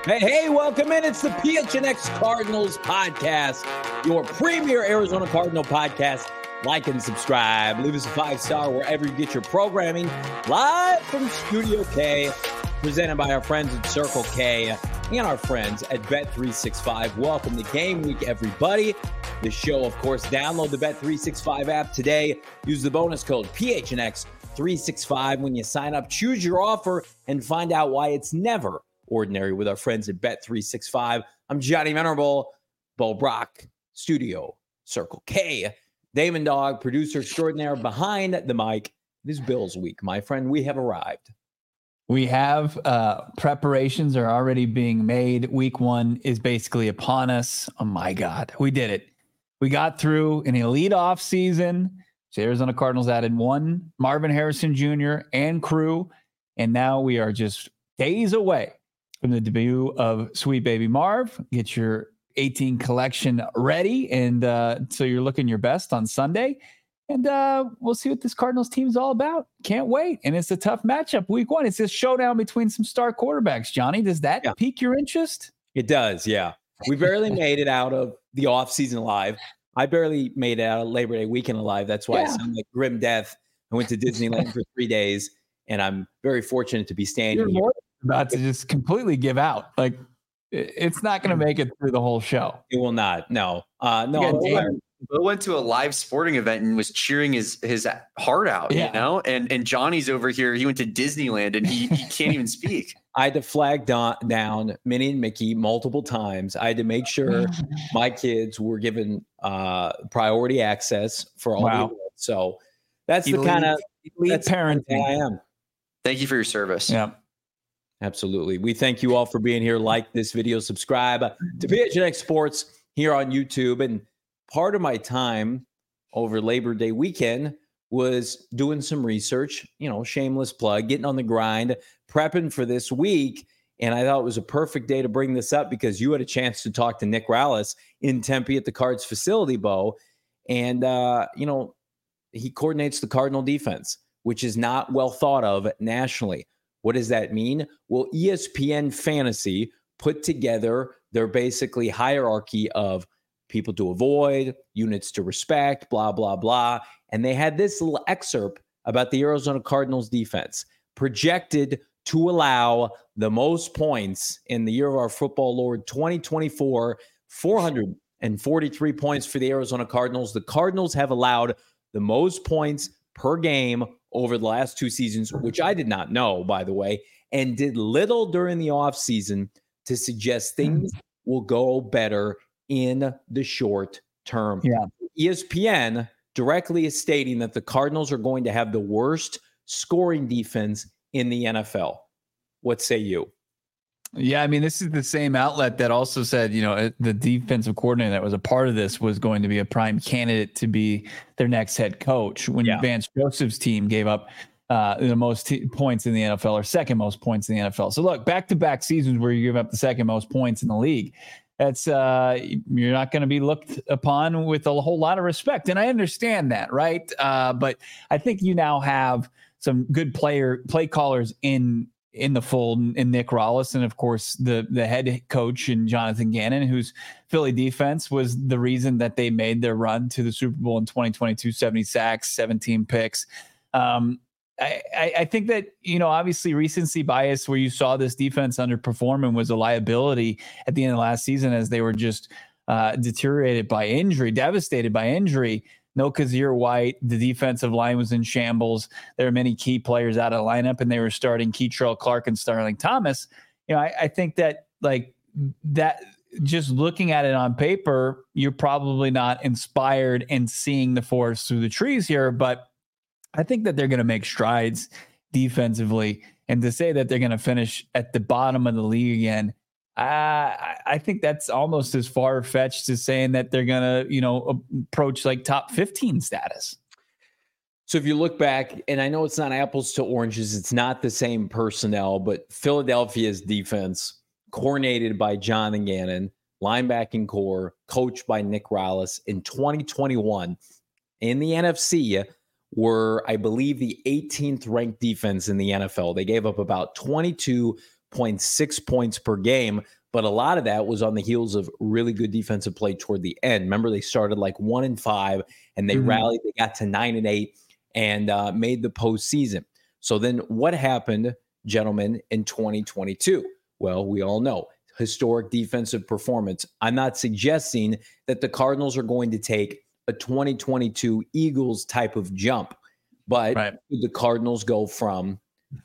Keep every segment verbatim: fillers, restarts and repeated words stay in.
Hey, hey, welcome in. It's the P H N X Cardinals podcast, your premier Arizona Cardinal podcast. Like and subscribe. Leave us a five-star wherever you get your programming. Live from Studio K, presented by our friends at Circle K and our friends at Bet three sixty-five. Welcome to Game Week, everybody. The show, of course, download the Bet three sixty-five app today. Use the bonus code P H N X three sixty-five when you sign up. Choose your offer and find out why it's never ordinary with our friends at Bet three sixty-five. I'm Johnny Venerable, Bo Brock, Studio, Circle K. Damon Dog, producer extraordinaire behind the mic. It is Bills week, my friend. We have arrived. We have uh, preparations are already being made. Week one is basically upon us. Oh my God, we did it. We got through an elite off season. The Arizona Cardinals added one Marvin Harrison Junior and crew, and now we are just days away from the debut of Sweet Baby Marv. Get your eighteen collection ready, and uh, so you're looking your best on Sunday. And uh, we'll see what this Cardinals team is all about. Can't wait. And it's a tough matchup week one. It's this showdown between some star quarterbacks. Johnny, does that yeah. pique your interest? It does, yeah. We barely made it out of the offseason alive. I barely made it out of Labor Day weekend alive. That's why yeah. I sound like grim death. I went to Disneyland for three days, and I'm very fortunate to be standing here. About to just completely give out. Like, it's not going to make it through the whole show. It will not. No. Uh, no. Bill went to a live sporting event and was cheering his his heart out, yeah. you know, and and Johnny's over here. He went to Disneyland and he, he can't even speak. I had to flag down, down Minnie and Mickey multiple times. I had to make sure my kids were given uh, priority access for all wow. the events. So that's elite, the kind of parenting I am. Thank you for your service. Yeah. Absolutely. We thank you all for being here. Like this video, subscribe to P H N X Sports here on YouTube. And part of my time over Labor Day weekend was doing some research, you know, shameless plug, getting on the grind, prepping for this week. And I thought it was a perfect day to bring this up because you had a chance to talk to Nick Rallis in Tempe at the Cards facility, Bo. And, uh, you know, he coordinates the Cardinal defense, which is not well thought of nationally. What does that mean? Well, E S P N Fantasy put together their basically hierarchy of people to avoid, units to respect, blah, blah, blah. And they had this little excerpt about the Arizona Cardinals defense, projected to allow the most points in the year of our football Lord twenty twenty-four, four hundred forty-three points for the Arizona Cardinals. The Cardinals have allowed the most points per game over the last two seasons, which I did not know, by the way, and did little during the offseason to suggest things will go better in the short term. Yeah. E S P N directly is stating that the Cardinals are going to have the worst scoring defense in the N F L. What say you? Yeah, I mean, this is the same outlet that also said, you know, the defensive coordinator that was a part of this was going to be a prime candidate to be their next head coach when yeah. Vance Joseph's team gave up uh, the most t- points in the N F L or second most points in the N F L. So look, back-to-back seasons where you give up the second most points in the league. That's uh, you're not going to be looked upon with a whole lot of respect. And I understand that, right? Uh, but I think you now have some good player play callers in in the fold, in Nick Rallis, and of course the the head coach and Jonathan Gannon, whose Philly defense was the reason that they made their run to the Super Bowl in twenty twenty-two, seventy sacks, seventeen picks. Um, I, I, I think that, you know, obviously recency bias where you saw this defense underperforming was a liability at the end of last season as they were just uh, deteriorated by injury, devastated by injury. No Kazir White, the defensive line was in shambles. There are many key players out of the lineup, and they were starting Keitrell Clark and Starling Thomas. You know, I, I think that like that, just looking at it on paper, you're probably not inspired and seeing the forest through the trees here, but I think that they're going to make strides defensively. And to say that they're going to finish at the bottom of the league again, Uh, I think that's almost as far-fetched as saying that they're going to, you know, approach like top fifteen status. So if you look back, and I know it's not apples to oranges, it's not the same personnel, but Philadelphia's defense, coordinated by John and Gannon, linebacking core, coached by Nick Rallis in twenty twenty-one in the N F C, were, I believe, the eighteenth ranked defense in the N F L. They gave up about twenty-two point six points per game, But a lot of that was on the heels of really good defensive play toward the end. Remember, they started like one and five, and they mm-hmm. rallied. They got to nine and eight, and uh, made the postseason. So then, what happened, gentlemen, in twenty twenty-two? Well, we all know historic defensive performance. I'm not suggesting that the Cardinals are going to take a twenty twenty-two Eagles type of jump, but right. the Cardinals go from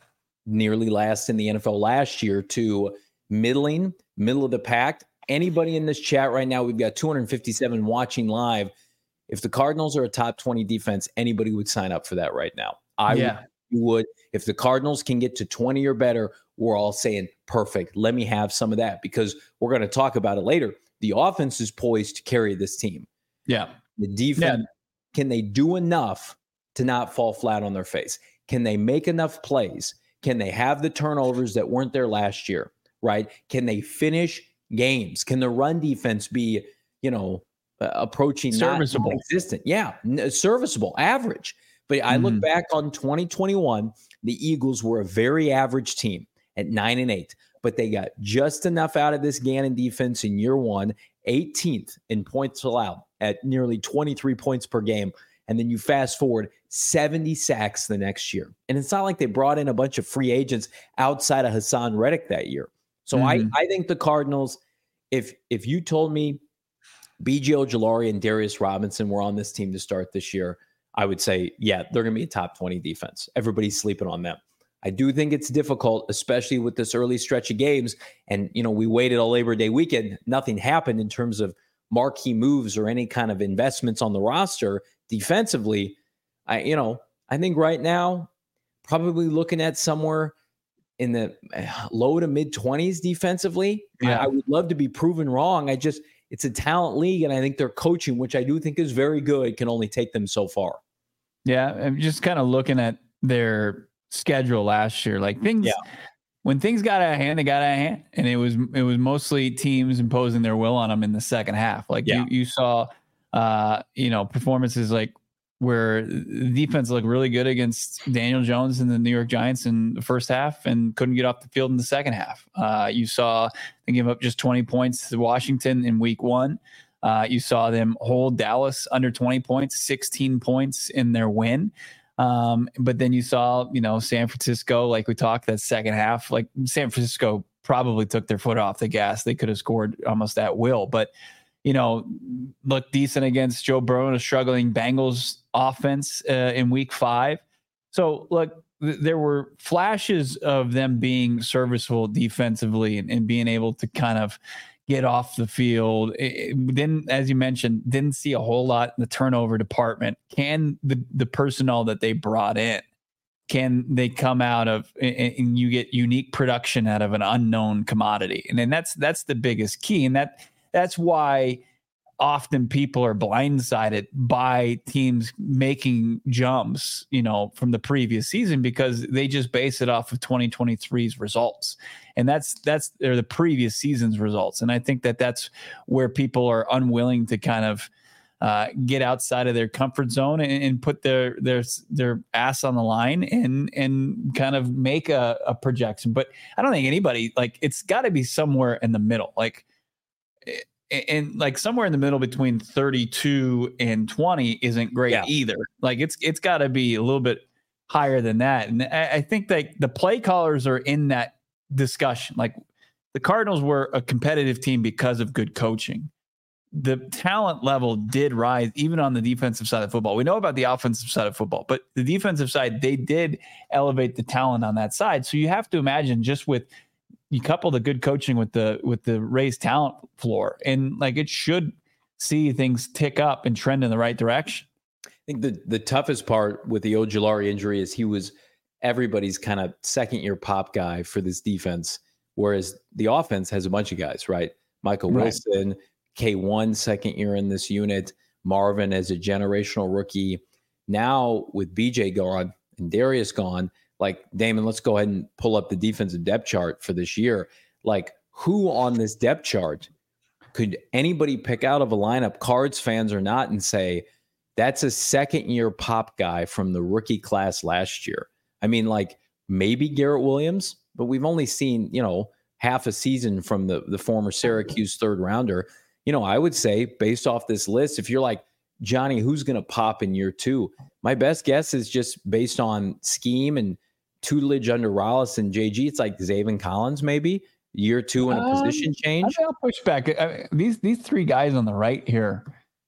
nearly last in the N F L last year to middling, middle of the pack. Anybody in this chat right now, we've got two hundred fifty-seven watching live. If the Cardinals are a top twenty defense, anybody would sign up for that right now. I yeah. would, you would. If the Cardinals can get to twenty or better, we're all saying, perfect, let me have some of that, because we're going to talk about it later. The offense is poised to carry this team. Yeah. The defense, yeah. can they do enough to not fall flat on their face? Can they make enough plays? Can they have the turnovers that weren't there last year, right? Can they finish games? Can the run defense be, you know, uh, approaching serviceable, non-existent? Yeah, n- serviceable, average. But I look mm. back on twenty twenty-one, the Eagles were a very average team at nine and eight, but they got just enough out of this Gannon defense in year one, eighteenth in points allowed at nearly twenty-three points per game. And then you fast forward seventy sacks the next year. And it's not like they brought in a bunch of free agents outside of Hassan Reddick that year. So mm-hmm. I, I think the Cardinals, if if you told me B J Ojulari and Darius Robinson were on this team to start this year, I would say, yeah, they're going to be a top twenty defense. Everybody's sleeping on them. I do think it's difficult, especially with this early stretch of games. And, you know, we waited all Labor Day weekend. Nothing happened in terms of marquee moves or any kind of investments on the roster defensively. I, you know, I think right now, probably looking at somewhere in the low to mid twenties defensively. Yeah. I, I would love to be proven wrong. I just, it's a talent league. And I think their coaching, which I do think is very good, can only take them so far. Yeah. I'm just kind of looking at their schedule last year, like things, yeah. when things got out of hand, they got out of hand, and it was, it was mostly teams imposing their will on them in the second half. Like yeah. you, you saw, uh, you know, performances like where the defense looked really good against Daniel Jones and the New York Giants in the first half and couldn't get off the field in the second half. Uh, you saw them give up just twenty points to Washington in week one. Uh, you saw them hold Dallas under twenty points, sixteen points in their win. Um, but then you saw, you know, San Francisco, like we talked, that second half, like San Francisco probably took their foot off the gas. They could have scored almost at will, but, you know, looked decent against Joe Burrow and a struggling Bengals offense uh, in week five. So look, th- there were flashes of them being serviceable defensively and, and being able to kind of get off the field. It, then, as you mentioned, didn't see a whole lot in the turnover department. Can the, the personnel that they brought in, can they come out of and, and you get unique production out of an unknown commodity? And then that's, that's the biggest key. And that, that's why often people are blindsided by teams making jumps, you know, from the previous season, because they just base it off of twenty twenty-three's results. And that's, that's they're the previous season's results. And I think that that's where people are unwilling to kind of uh, get outside of their comfort zone and, and put their, their, their ass on the line and, and kind of make a, a projection. But I don't think anybody, like, it's gotta be somewhere in the middle. Like, and like somewhere in the middle between thirty-two and twenty isn't great yeah. either. Like it's, it's gotta be a little bit higher than that. And I, I think that the play callers are in that discussion. Like the Cardinals were a competitive team because of good coaching. The talent level did rise even on the defensive side of football. We know about the offensive side of football, but the defensive side, they did elevate the talent on that side. So you have to imagine, just with, you couple the good coaching with the with the raised talent floor, and like it should see things tick up and trend in the right direction. I think the the toughest part with the Ojulari injury is he was everybody's kind of second year pop guy for this defense, whereas the offense has a bunch of guys, right? Michael Wilson, right. K one second year in this unit, Marvin as a generational rookie. Now with B J gone and Darius gone, like, Damon, let's go ahead and pull up the defensive depth chart for this year. Like, who on this depth chart could anybody pick out of a lineup, Cards fans or not, and say, that's a second-year pop guy from the rookie class last year? I mean, like, maybe Garrett Williams, but we've only seen, you know, half a season from the, the former Syracuse third rounder. You know, I would say based off this list, if you're like, Johnny, who's going to pop in year two? My best guess is just based on scheme and tutelage under Rollis and J G. It's like Zaven Collins, maybe year two in a um, position change. I mean, I'll push back. I mean, these these three guys on the right here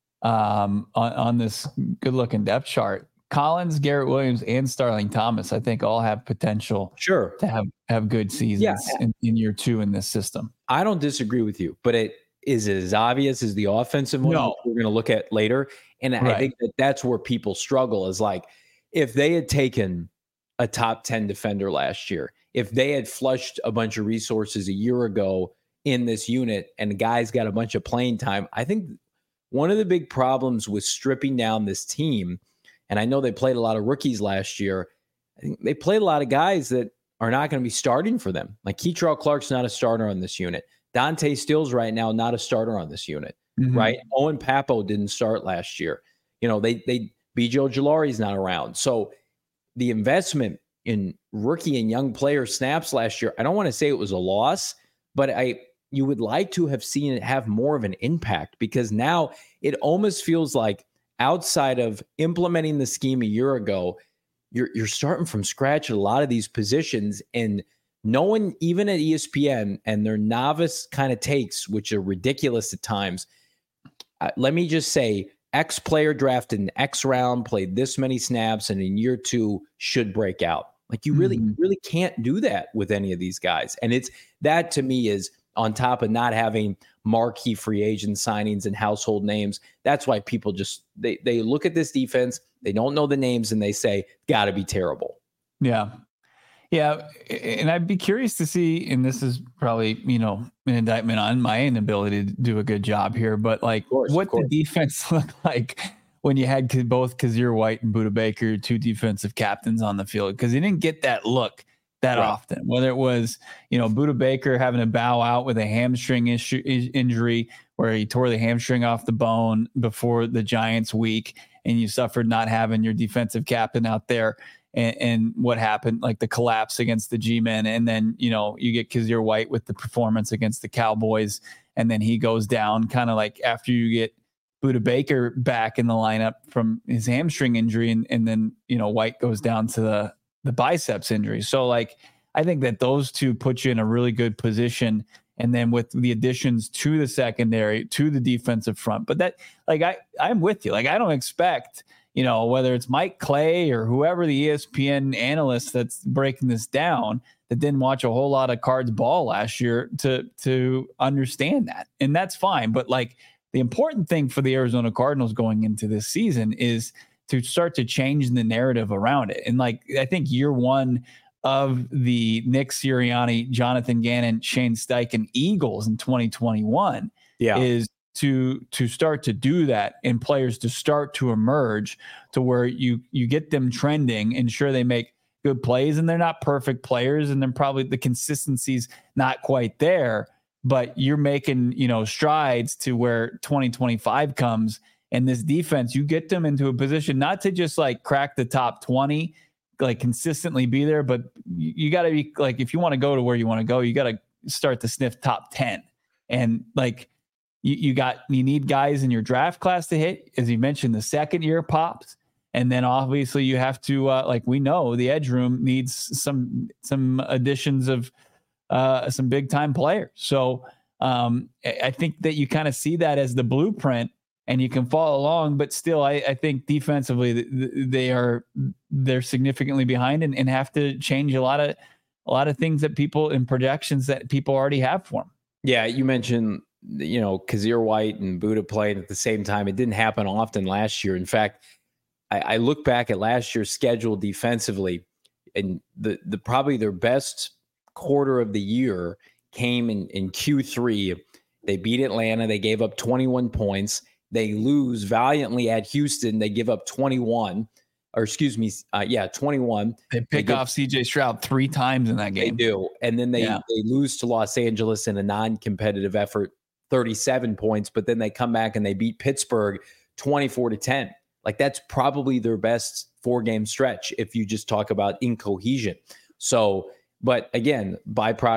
um, on, on this good looking depth chart, Collins, Garrett Williams, and Starling Thomas, I think all have potential sure to have, have good seasons yeah. in, in year two in this system. I don't disagree with you, but it is it as obvious as the offensive one no. we're going to look at later. And right. I think that that's where people struggle is like, if they had taken a top ten defender last year, if they had flushed a bunch of resources a year ago in this unit and the guys got a bunch of playing time, I think one of the big problems with stripping down this team, and I know they played a lot of rookies last year, I think they played a lot of guys that are not going to be starting for them. Like Keitrell Clark's not a starter on this unit. Dante Stills right now, not a starter on this unit, mm-hmm. right? Owen Papo didn't start last year. You know, they, they, B J Ojulari's not around. So the investment in rookie and young player snaps last year, I don't want to say it was a loss, but I, you would like to have seen it have more of an impact because now it almost feels like outside of implementing the scheme a year ago, you're, you're starting from scratch at a lot of these positions, and no one, even at E S P N and their novice kind of takes, which are ridiculous at times. Uh, let me just say, X player drafted in X round, played this many snaps, and in year two should break out. Like you really, mm-hmm. really can't do that with any of these guys. And it's that to me is on top of not having marquee free agent signings and household names. That's why people just, they, they look at this defense, they don't know the names, and they say, gotta be terrible. Yeah. Yeah, and I'd be curious to see, and this is probably, you know, an indictment on my inability to do a good job here, but like course, what the defense look like when you had both Kazir White and Budda Baker, two defensive captains on the field, because he didn't get that look that right. often, whether it was, you know, Budda Baker having to bow out with a hamstring issue, injury where he tore the hamstring off the bone before the Giants week, and you suffered not having your defensive captain out there. And, and what happened, like the collapse against the G-Men. And then, you know, you get Kazir White with the performance against the Cowboys. And then he goes down kind of like after you get Budda Baker back in the lineup from his hamstring injury. And, and then, you know, White goes down to the, the biceps injury. So like, I think that those two put you in a really good position. And then with the additions to the secondary, to the defensive front, but that like, I, I'm with you. Like, I don't expect, you know, whether it's Mike Clay or whoever the E S P N analyst that's breaking this down that didn't watch a whole lot of Cards ball last year to to understand that. And that's fine. But like the important thing for the Arizona Cardinals going into this season is to start to change the narrative around it. And like, I think year one of the Nick Sirianni, Jonathan Gannon, Shane Steichen Eagles in twenty twenty-one yeah. is to to start to do that and players to start to emerge to where you you get them trending and sure they make good plays and they're not perfect players and then probably the consistency's not quite there, but you're making, you know, strides to where twenty twenty-five comes and this defense, you get them into a position not to just like crack the top twenty, like consistently be there, but you, you got to be like, if you want to go to where you want to go, you got to start to sniff top ten. And like, You, you got, you need guys in your draft class to hit, as you mentioned, the second year pops. And then obviously you have to, uh, like we know the edge room needs some, some additions of uh, some big time players. So um, I think that you kind of see that as the blueprint and you can follow along, but still I, I think defensively they are, they're significantly behind and, and have to change a lot of, a lot of things that people in projections that people already have for them. Yeah. You mentioned, you know, Kazir White and Budda playing at the same time. It didn't happen often last year. In fact, I, I look back at last year's schedule defensively, and the the probably their best quarter of the year came in, in Q three. They beat Atlanta. They gave up twenty-one points. They lose valiantly at Houston. They give up twenty-one. Or excuse me, uh, yeah, twenty-one. They pick they give, off C J Stroud three times in that game. They do. And then they, yeah. they lose to Los Angeles in a non-competitive effort, thirty-seven points, but then they come back and they beat Pittsburgh twenty-four to ten. Like that's probably their best four game stretch if you just talk about incohesion. So, but again, byproduct of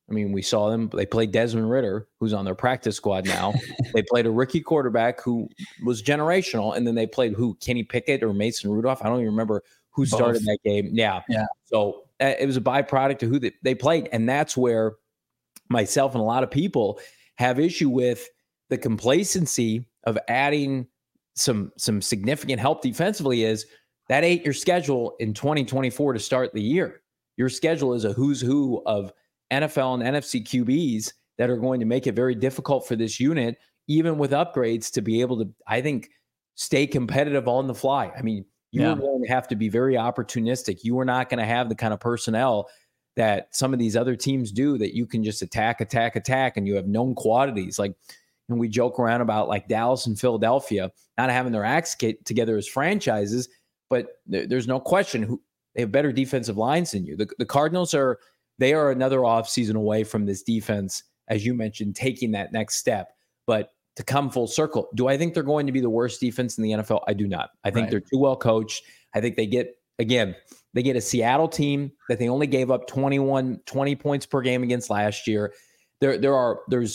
I mean, we saw them. They played Desmond Ridder, who's on their practice squad now. They played a rookie quarterback who was generational, and then they played who? Kenny Pickett or Mason Rudolph? I don't even remember who started Both. that game. Yeah. Yeah. So uh, it was a byproduct of who they, they played, and that's where myself and a lot of people have issue with the complacency of adding some some significant help defensively. Is that ain't your schedule in twenty twenty-four to start the year. Your schedule is a who's who of N F L and N F C Q Bs that are going to make it very difficult for this unit, even with upgrades, to be able to, I think, stay competitive on the fly. I mean, you yeah. are going to have to be very opportunistic. You are not going to have the kind of personnel that some of these other teams do, that you can just attack, attack, attack, and you have known quantities. Like, and we joke around about like Dallas and Philadelphia not having their acts together as franchises, but there, there's no question who they have better defensive lines than you. The, the Cardinals are, they are another offseason away from this defense, as you mentioned, taking that next step. But to come full circle, do I think they're going to be the worst defense in the N F L? I do not. I think right. they're too well coached. I think they get, again, they get a Seattle team that they only gave up twenty-one, twenty points per game against last year. There, there are, there's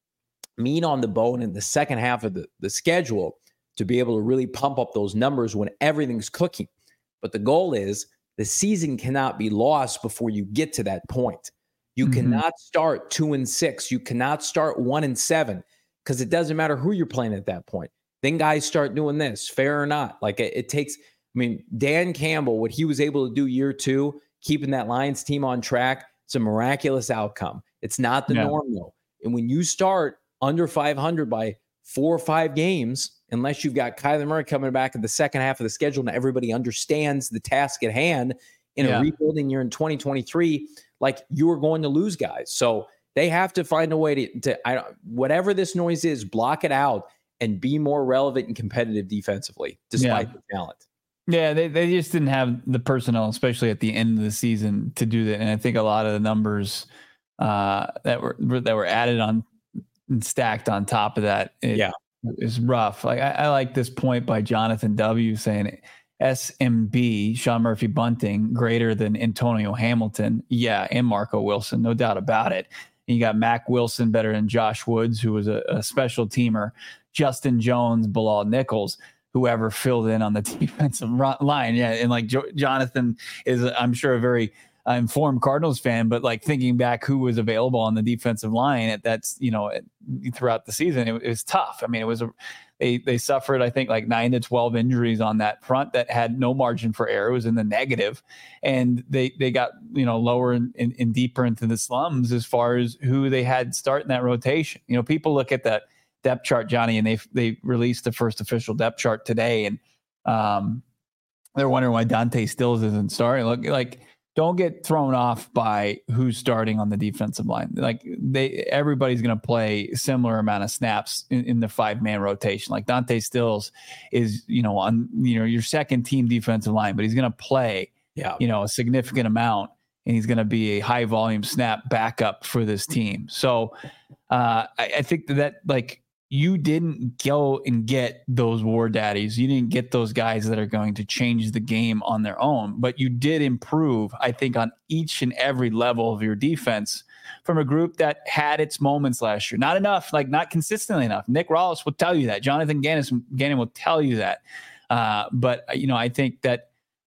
meat on the bone in the second half of the, the schedule to be able to really pump up those numbers when everything's cooking. But the goal is the season cannot be lost before you get to that point. You mm-hmm. cannot start two and six. You cannot start one and seven, because it doesn't matter who you're playing at that point. Then guys start doing this, fair or not. Like it, it takes, I mean, Dan Campbell, what he was able to do year two, keeping that Lions team on track, it's a miraculous outcome. It's not the yeah. norm though. And when you start under five hundred by four or five games, unless you've got Kyler Murray coming back in the second half of the schedule and everybody understands the task at hand in yeah. a rebuilding year in twenty twenty-three, like, you are going to lose guys. So they have to find a way to, to I don't, whatever this noise is, block it out and be more relevant and competitive defensively, despite yeah. the talent. Yeah, they, they just didn't have the personnel, especially at the end of the season, to do that. And I think a lot of the numbers uh, that were that were added on and stacked on top of that, it, yeah. is rough. Like I, I like this point by Jonathan W. saying S M B, Sean Murphy Bunting, greater than Antonio Hamilton. Yeah, and Marco Wilson, no doubt about it. And you got Mac Wilson better than Josh Woods, who was a, a special teamer. Justin Jones, Bilal Nichols, whoever filled in on the defensive line. Yeah, and like jo- Jonathan is, I'm sure, a very uh, informed Cardinals fan, but like thinking back who was available on the defensive line at that's, you know, throughout the season, it, it was tough. I mean, it was a, they they suffered, I think, like nine to twelve injuries on that front that had no margin for error. It was in the negative, and they they got, you know, lower and, and, and deeper into the slums as far as who they had starting that rotation. You know, people look at that depth chart, Johnny, and they they released the first official depth chart today, and um, they're wondering why Dante Stills isn't starting. Look, like, don't get thrown off by who's starting on the defensive line. Like, they, everybody's going to play similar amount of snaps in, in the five man rotation. Like, Dante Stills is, you know, on, you know, your second team defensive line, but he's going to play, yeah. you know, a significant amount, and he's going to be a high volume snap backup for this team. So uh, I, I think that, that like, you didn't go and get those war daddies. You didn't get those guys that are going to change the game on their own, but you did improve, I think, on each and every level of your defense from a group that had its moments last year. Not enough, like not consistently enough. Nick Rawls will tell you that. Jonathan Gannon, Gannon will tell you that. Uh, but, you know, I think that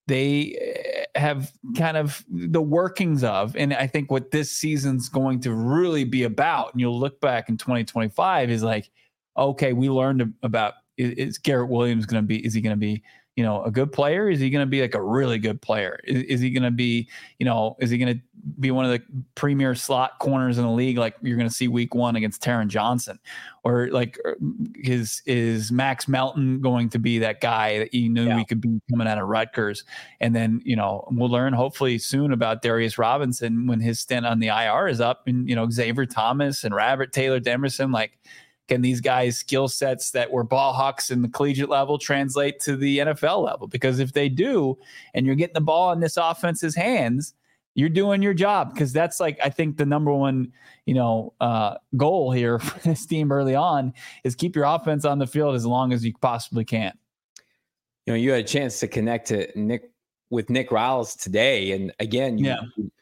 they have kind of the workings of, and I think what this season's going to really be about, and you'll look back in twenty twenty-five, is like, okay, we learned about, is, is Garrett Williams going to be, is he going to be, you know, a good player? Is he going to be like a really good player? Is, is he going to be, you know, is he going to be one of the premier slot corners in the league? Like you're going to see week one against Taron Johnson, or like is, is Max Melton going to be that guy that you knew yeah. we could be coming out of Rutgers? And then, you know, we'll learn hopefully soon about Darius Robinson when his stint on the I R is up, and, you know, Xavier Thomas and Robert Taylor Demerson, like, can these guys' skill sets that were ball hawks in the collegiate level translate to the N F L level? Because if they do, and you're getting the ball in this offense's hands, you're doing your job. Because that's like, I think the number one, you know, uh, goal here for this team early on is keep your offense on the field as long as you possibly can. You know, you had a chance to connect to Nick with Nick Rawls today, and again, you, yeah. you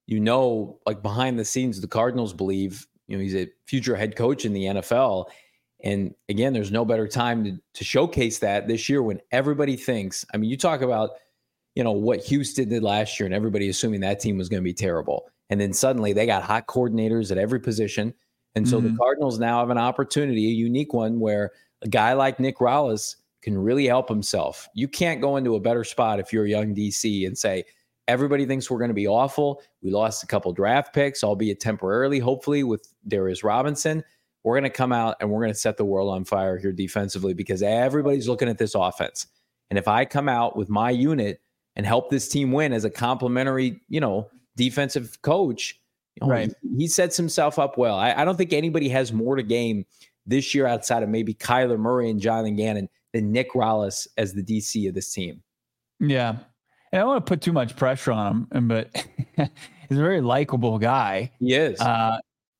you know, like behind the scenes, the Cardinals believe, you know, he's a future head coach in the N F L. And again, there's no better time to, to showcase that this year when everybody thinks, I mean, you talk about, you know, what Houston did last year and everybody assuming that team was going to be terrible. And then suddenly they got hot coordinators at every position. And so mm-hmm. the Cardinals now have an opportunity, a unique one, where a guy like Nick Rallis can really help himself. You can't go into a better spot if you're a young D C and say, everybody thinks we're going to be awful. We lost a couple draft picks, albeit temporarily, hopefully, with Darius Robinson. We're going to come out and we're going to set the world on fire here defensively because everybody's looking at this offense. And if I come out with my unit and help this team win as a complimentary, you know, defensive coach, you know, right. he, he sets himself up well. I, I don't think anybody has more to gain this year outside of maybe Kyler Murray and Jonathan Gannon than Nick Rallis as the D C of this team. Yeah. And I don't want to put too much pressure on him, but he's a very likable guy. He is. Uh,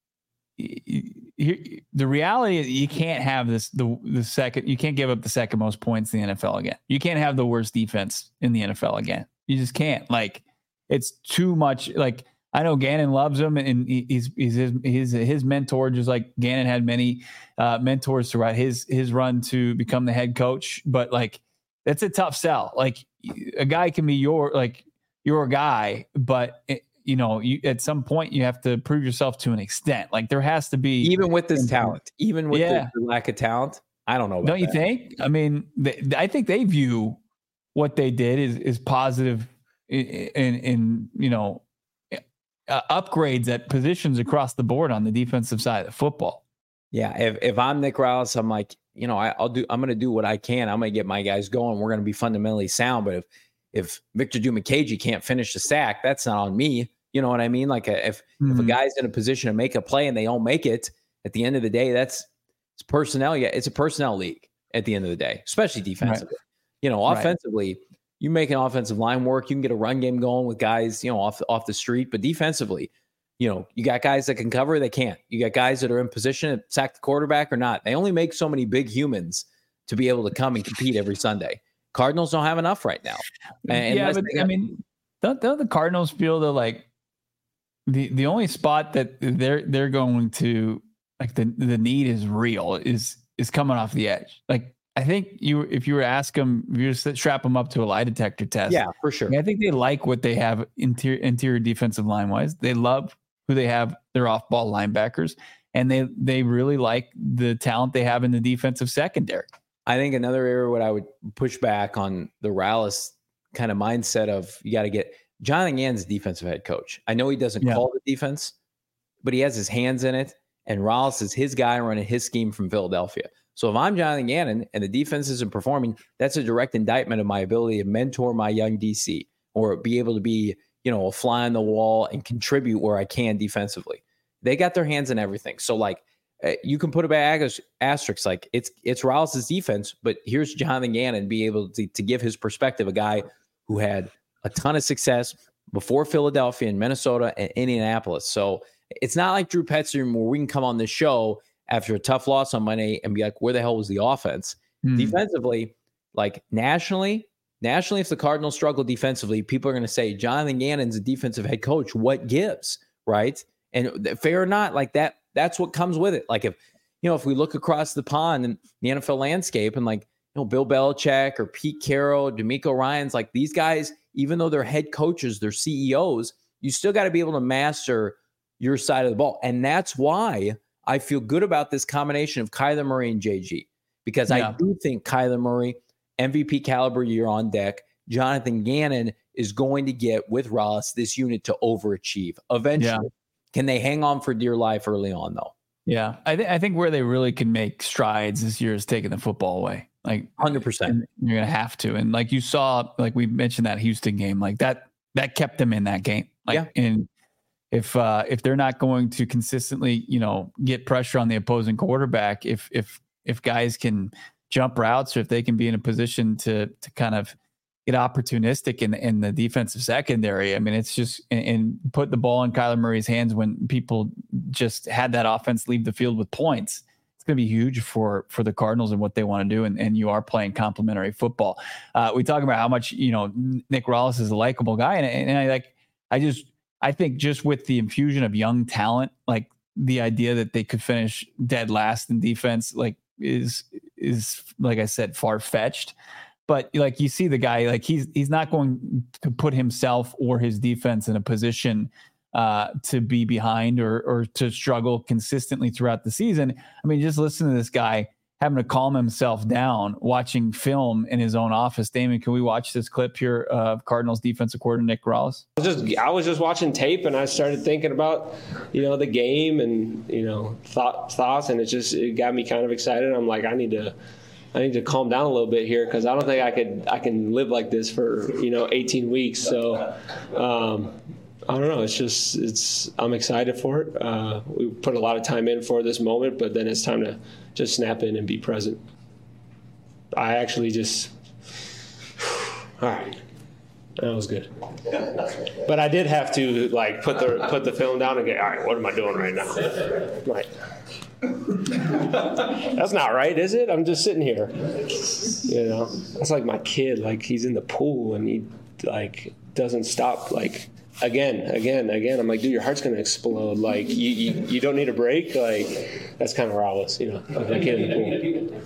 he, the reality is you can't have this, the, the second, you can't give up the second most points in the N F L again. You can't have the worst defense in the N F L again. You just can't. Like, it's too much. Like, I know Gannon loves him and he's, he's his, his, his mentor, just like Gannon had many uh, mentors throughout his, his run to become the head coach. But like, that's a tough sell. Like, a guy can be your, like your guy, but it, you know, you, at some point you have to prove yourself to an extent. Like there has to be, even with this talent, even with yeah. the, the lack of talent. I don't know. About don't you that. think? I mean, they, I think they view what they did is, is positive in, in, in you know, uh, upgrades at positions across the board on the defensive side of the football. Yeah. If, if I'm Nick Rallis, I'm like, you know, I, I'll do, I'm going to do what I can. I'm going to get my guys going. We're going to be fundamentally sound. But if, if Victor Dimukeje can't finish the sack, that's not on me. You know what I mean? Like if, mm-hmm. if a guy's in a position to make a play and they don't make it at the end of the day, that's it's personnel. Yeah. It's a personnel league at the end of the day, especially defensively, right. you know, offensively, right. you make an offensive line work. You can get a run game going with guys, you know, off, off the street, but defensively, you know, you got guys that can cover, they can't. You got guys that are in position to sack the quarterback or not. They only make so many big humans to be able to come and compete every Sunday. Cardinals don't have enough right now. And yeah, but got- I mean, don't, don't the Cardinals feel that like the, the only spot that they're they're going to like the the need is real is is coming off the edge. Like I think you if you were to ask them, if you were to strap them up to a lie detector test, yeah, for sure. I, mean, I think they like what they have interior interior defensive line wise. They love who they have, their off-ball linebackers, and they they really like the talent they have in the defensive secondary. I think another area what I would push back on the Rallis kind of mindset of you got to get Jonathan Gannon's defensive head coach. I know he doesn't yeah. call the defense, but he has his hands in it, and Rallis is his guy running his scheme from Philadelphia. So if I'm Jonathan Gannon and the defense isn't performing, that's a direct indictment of my ability to mentor my young D C or be able to be, you know, a fly on the wall and contribute where I can defensively. They got their hands in everything. So like uh, you can put a bag of asterisks, like it's, it's Rallis' defense, but here's Jonathan Gannon be able to, to give his perspective, a guy who had a ton of success before Philadelphia and Minnesota and Indianapolis. So it's not like Drew Petzing where we can come on this show after a tough loss on Monday and be like, where the hell was the offense? Mm. Defensively, like nationally, nationally, if the Cardinals struggle defensively, people are going to say, Jonathan Gannon's a defensive head coach. What gives, right? And fair or not, like that, that's what comes with it. Like if, you know, if we look across the pond and the N F L landscape and like, you know, Bill Belichick or Pete Carroll, D'Amico Ryans, like these guys, even though they're head coaches, they're C E Os, you still got to be able to master your side of the ball. And that's why I feel good about this combination of Kyler Murray and J G, because yeah. I do think Kyler Murray, M V P caliber year on deck, Jonathan Gannon is going to get with Rallis this unit to overachieve eventually. Yeah. Can they hang on for dear life early on though? Yeah. I, th- I think where they really can make strides this year is taking the football away. Like one hundred percent. You're going to have to. And like you saw, like we mentioned that Houston game, like that, that kept them in that game. Like, yeah. And if, uh, if they're not going to consistently, you know, get pressure on the opposing quarterback, if, if, if guys can jump routes or if they can be in a position to, to kind of get opportunistic in, in the defensive secondary, I mean, it's just, and, and put the ball in Kyler Murray's hands when people just had that offense leave the field with points. It's going to be huge for, for the Cardinals and what they want to do. And, and you are playing complementary football. Uh, we talk about how much, you know, Nick Rallis is a likable guy. And, and I like, I just, I think just with the infusion of young talent, like the idea that they could finish dead last in defense, like is, is like I said, far fetched. But like you see the guy, like he's he's not going to put himself or his defense in a position uh, to be behind or or to struggle consistently throughout the season. I mean, just listen to this guy having to calm himself down, watching film in his own office. Damon, can we watch this clip here of Cardinals defensive coordinator Nick Corrales? I was just I was just watching tape and I started thinking about, you know, the game and, you know, thought, thoughts, and it just it got me kind of excited. I'm like, I need to. I need to calm down a little bit here because I don't think I could I can live like this for, you know, eighteen weeks. So um, I don't know. It's just it's I'm excited for it. Uh, we put a lot of time in for this moment, but then it's time to just snap in and be present. I actually just all right. That was good. But I did have to like put the put the film down and go, all right, what am I doing right now? Right. That's not right, is it? I'm just sitting here. You know, that's like my kid. Like he's in the pool and he like doesn't stop. Like again, again, again. I'm like, dude, your heart's gonna explode. Like you, you, you don't need a break. Like that's kind of where I was. You know, like a kid in the pool.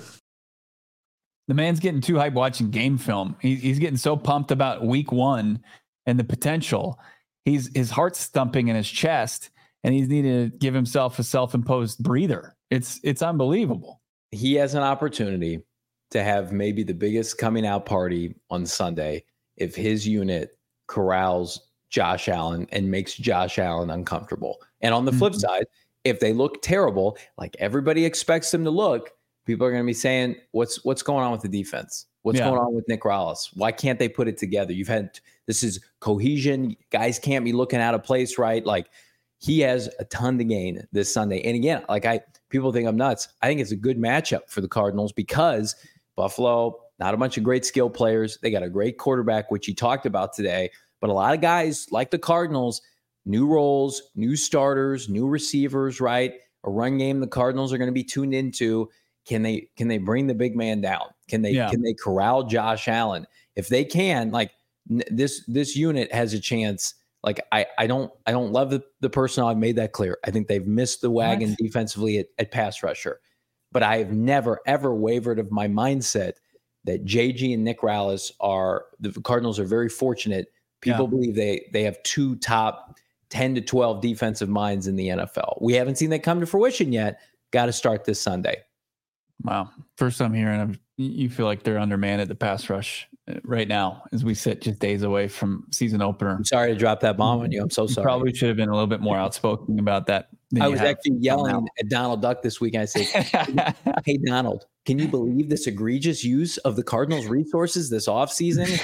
The man's getting too hyped watching game film. He, he's getting so pumped about week one and the potential. He's his heart's thumping in his chest. And he's needed to give himself a self-imposed breather. It's it's unbelievable. He has an opportunity to have maybe the biggest coming out party on Sunday if his unit corrals Josh Allen and makes Josh Allen uncomfortable. And on the flip mm-hmm. side, if they look terrible, like everybody expects them to look, people are going to be saying, what's what's going on with the defense? What's yeah. going on with Nick Corrales? Why can't they put it together? You've had this is cohesion. Guys can't be looking out of place, right? Like, he has a ton to gain this Sunday. And again, like I, people think I'm nuts. I think it's a good matchup for the Cardinals because Buffalo, not a bunch of great skill players. They got a great quarterback, which you talked about today, but a lot of guys like the Cardinals, new roles, new starters, new receivers, right? A run game the Cardinals are going to be tuned into. Can they, can they bring the big man down? Can they, yeah. can they corral Josh Allen? If they can, like n- this, this unit has a chance. Like I, I don't, I don't love the, the personnel. I've made that clear. I think they've missed the wagon what? defensively at, at pass rusher, but I have never ever wavered of my mindset that J G and Nick Corrales are the Cardinals are very fortunate. People yeah. believe they they have two top ten to twelve defensive minds in the N F L. We haven't seen that come to fruition yet. Got to start this Sunday. Wow, first time hearing of you feel like they're undermanned at the pass rush right now as we sit just days away from season opener. I'm sorry to drop that bomb on you. I'm so sorry. You probably should have been a little bit more outspoken about that. I was actually yelling at Donald Duck this week. And I said, hey, Donald, can you believe this egregious use of the Cardinals resources this offseason?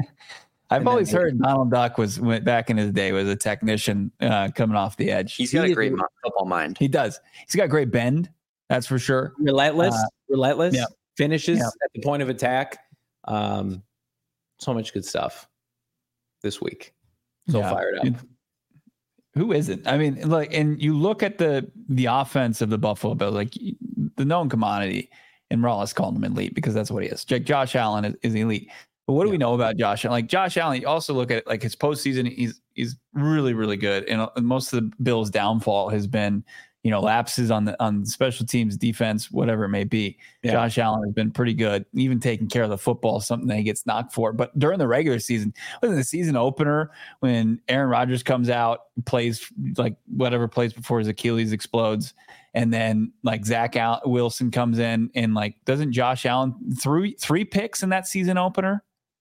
I've and always heard Donald Duck was went back in his day was a technician uh, coming off the edge. He's got he a great football mind. He does. He's got great bend. That's for sure. Relentless, uh, relentless yeah. finishes yeah. at the point of attack. Um, so much good stuff this week. So yeah. fired up. Who isn't? I mean, like, and you look at the the offense of the Buffalo Bills, like the known commodity, and Morales called him elite because that's what he is. Josh Allen is, is elite. But what do yeah. we know about Josh Allen? Like Josh Allen, you also look at like his postseason, he's he's really, really good. And most of the Bills' downfall has been, you know, lapses on the on special teams, defense, whatever it may be. Yeah. Josh Allen has been pretty good, even taking care of the football, something that he gets knocked for. But during the regular season, wasn't the season opener when Aaron Rodgers comes out, plays like whatever plays before his Achilles explodes, and then like Zach Al- Wilson comes in and like doesn't Josh Allen three three picks in that season opener?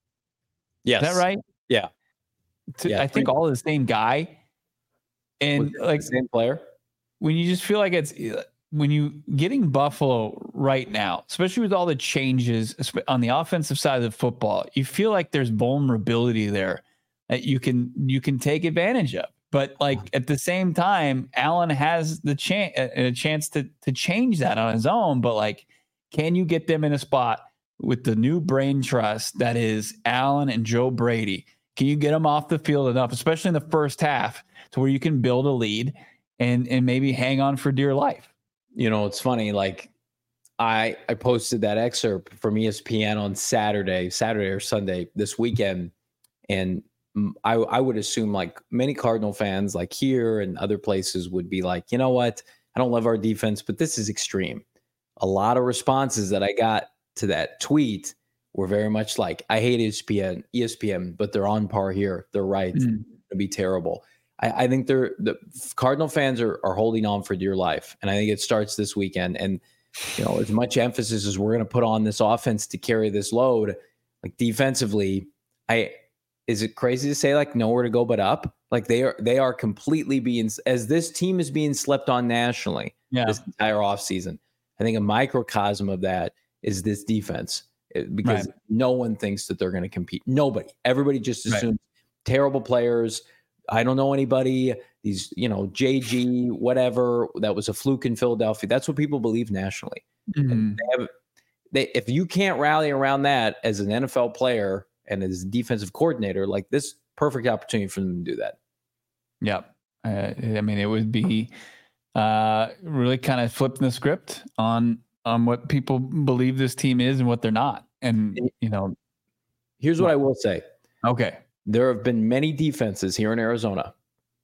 Yes. Is that right? Yeah. To, yeah I think all the same guy, and like same player. When you just feel like it's when you getting Buffalo right now, especially with all the changes on the offensive side of the football, you feel like there's vulnerability there that you can you can take advantage of. But like at the same time, Allen has the chance a chance to to change that on his own. But like, can you get them in a spot with the new brain trust that is Allen and Joe Brady? Can you get them off the field enough, especially in the first half, to where you can build a lead and and maybe hang on for dear life? You know, it's funny. Like I I posted that excerpt from E S P N on Saturday, Saturday or Sunday this weekend, and I, I would assume like many Cardinal fans like here and other places would be like, you know what? I don't love our defense, but this is extreme. A lot of responses that I got to that tweet were very much like, I hate E S P N, E S P N, but they're on par here. They're right. Mm. It'll be terrible. I, I think they're the Cardinal fans are, are holding on for dear life. And I think it starts this weekend. And, you know, as much emphasis as we're going to put on this offense to carry this load, like defensively, I, is it crazy to say like nowhere to go but up? Like they are, they are completely being, as this team is being slept on nationally yeah. this entire offseason. I think a microcosm of that is this defense because right. no one thinks that they're going to compete. Nobody, everybody just assumes right. terrible players. I don't know anybody. These, you know, J G, whatever, that was a fluke in Philadelphia. That's what people believe nationally. Mm-hmm. And they have, they, if you can't rally around that as an N F L player and as a defensive coordinator, like this perfect opportunity for them to do that. Yeah. Uh, I mean, it would be uh, really kind of flipping the script on, on what people believe this team is and what they're not. And, you know, here's what I will say. Okay. There have been many defenses here in Arizona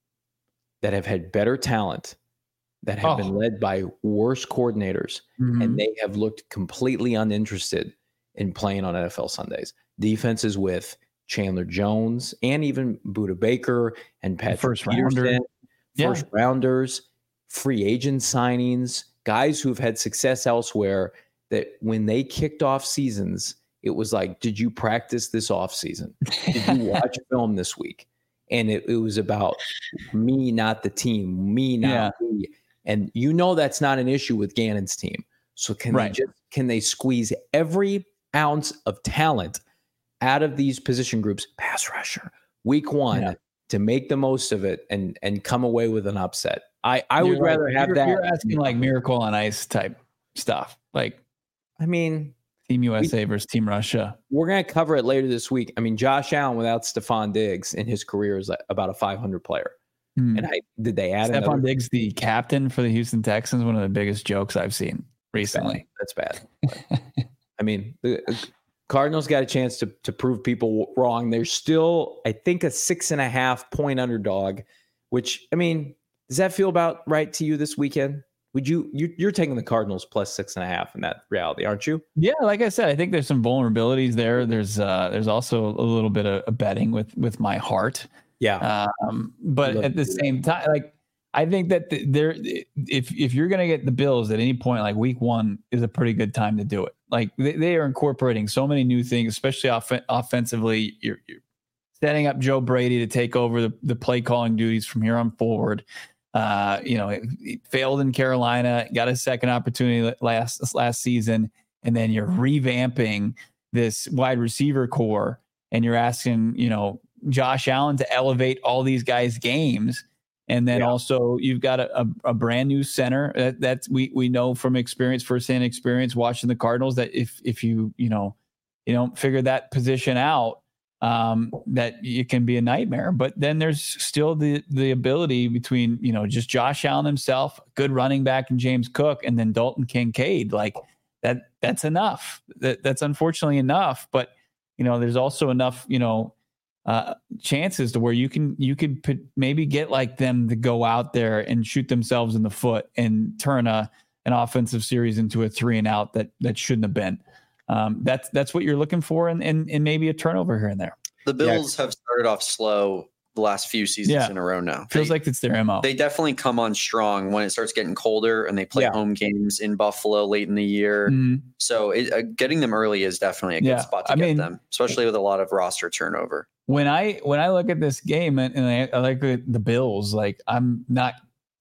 that have had better talent, that have oh. been led by worse coordinators, mm-hmm. and they have looked completely uninterested in playing on N F L Sundays. Defenses with Chandler Jones and even Budda Baker and Patrick first Peterson, rounder. first yeah. rounders, free agent signings, guys who've had success elsewhere, that when they kicked off seasons, it was like, did you practice this off season? Did you watch film this week? And it, it was about me, not the team, me, not yeah. me. And you know that's not an issue with Gannon's team. So can right. they just can they squeeze every ounce of talent out of these position groups, pass rusher, week one, yeah. to make the most of it and and come away with an upset? I, I would right. rather have you're, that. You're asking like Miracle on Ice type stuff. Like, I mean, Team U S A we, versus Team Russia. We're going to cover it later this week. I mean, Josh Allen without Stephon Diggs in his career is like about a five hundred player. Mm. And I did they add Stephon another? Diggs, the captain for the Houston Texans, one of the biggest jokes I've seen recently. That's bad. That's bad. I mean, the Cardinals got a chance to to prove people wrong. They're still, I think, a six and a half point underdog, which, I mean, does that feel about right to you this weekend? Would you, you you're taking the Cardinals plus six and a half in that reality, aren't you? Yeah, like I said, I think there's some vulnerabilities there. There's uh, there's also a little bit of betting with with my heart. Yeah. Um, but at the same time, like I think that the, there, if if you're gonna get the Bills at any point, like week one is a pretty good time to do it. Like they, they are incorporating so many new things, especially off- offensively. You're, you're setting up Joe Brady to take over the, the play calling duties from here on forward. Uh, you know, it failed in Carolina, got a second opportunity last last season, and then you're revamping this wide receiver core, and you're asking, you know, Josh Allen to elevate all these guys' games, and then yeah. also you've got a, a, a brand new center that that's we we know from experience, firsthand experience, watching the Cardinals, that if if you you know you don't figure that position out, um, that it can be a nightmare. But then there's still the the ability between, you know, just Josh Allen himself, good running back, and James Cook, and then Dalton Kincaid. Like that, that's enough. That that's unfortunately enough. But, you know, there's also enough, you know, uh, chances to where you can, you could put, maybe get like them to go out there and shoot themselves in the foot and turn a, an offensive series into a three and out that, that shouldn't have been. Um, that's that's what you're looking for, and, and and maybe a turnover here and there. The Bills yeah. have started off slow the last few seasons yeah. in a row now. Feels they, like it's their M O. They definitely come on strong when it starts getting colder, and they play yeah. home games in Buffalo late in the year. Mm-hmm. So it, uh, getting them early is definitely a good yeah. spot to I get mean, them, especially with a lot of roster turnover. When I when I look at this game and, and I, I like the Bills, like I'm not.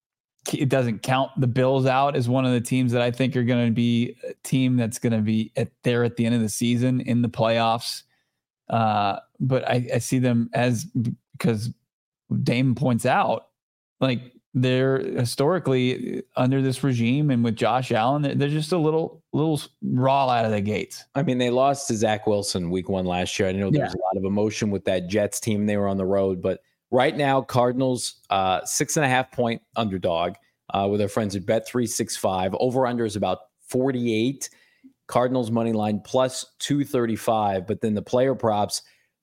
It doesn't count the Bills out as one of the teams that I think are going to be a team that's going to be at there at the end of the season in the playoffs. Uh, but I, I see them as, because Damon points out, like they're historically under this regime and with Josh Allen, they're, they're just a little, little raw out of the gates. I mean, they lost to Zach Wilson week one last year. I know there yeah. was a lot of emotion with that Jets team. They were on the road, but right now, Cardinals, uh, six and a half point underdog uh, with our friends at Bet three sixty-five. Over under is about forty-eight. Cardinals money line plus two thirty-five. But then the player props,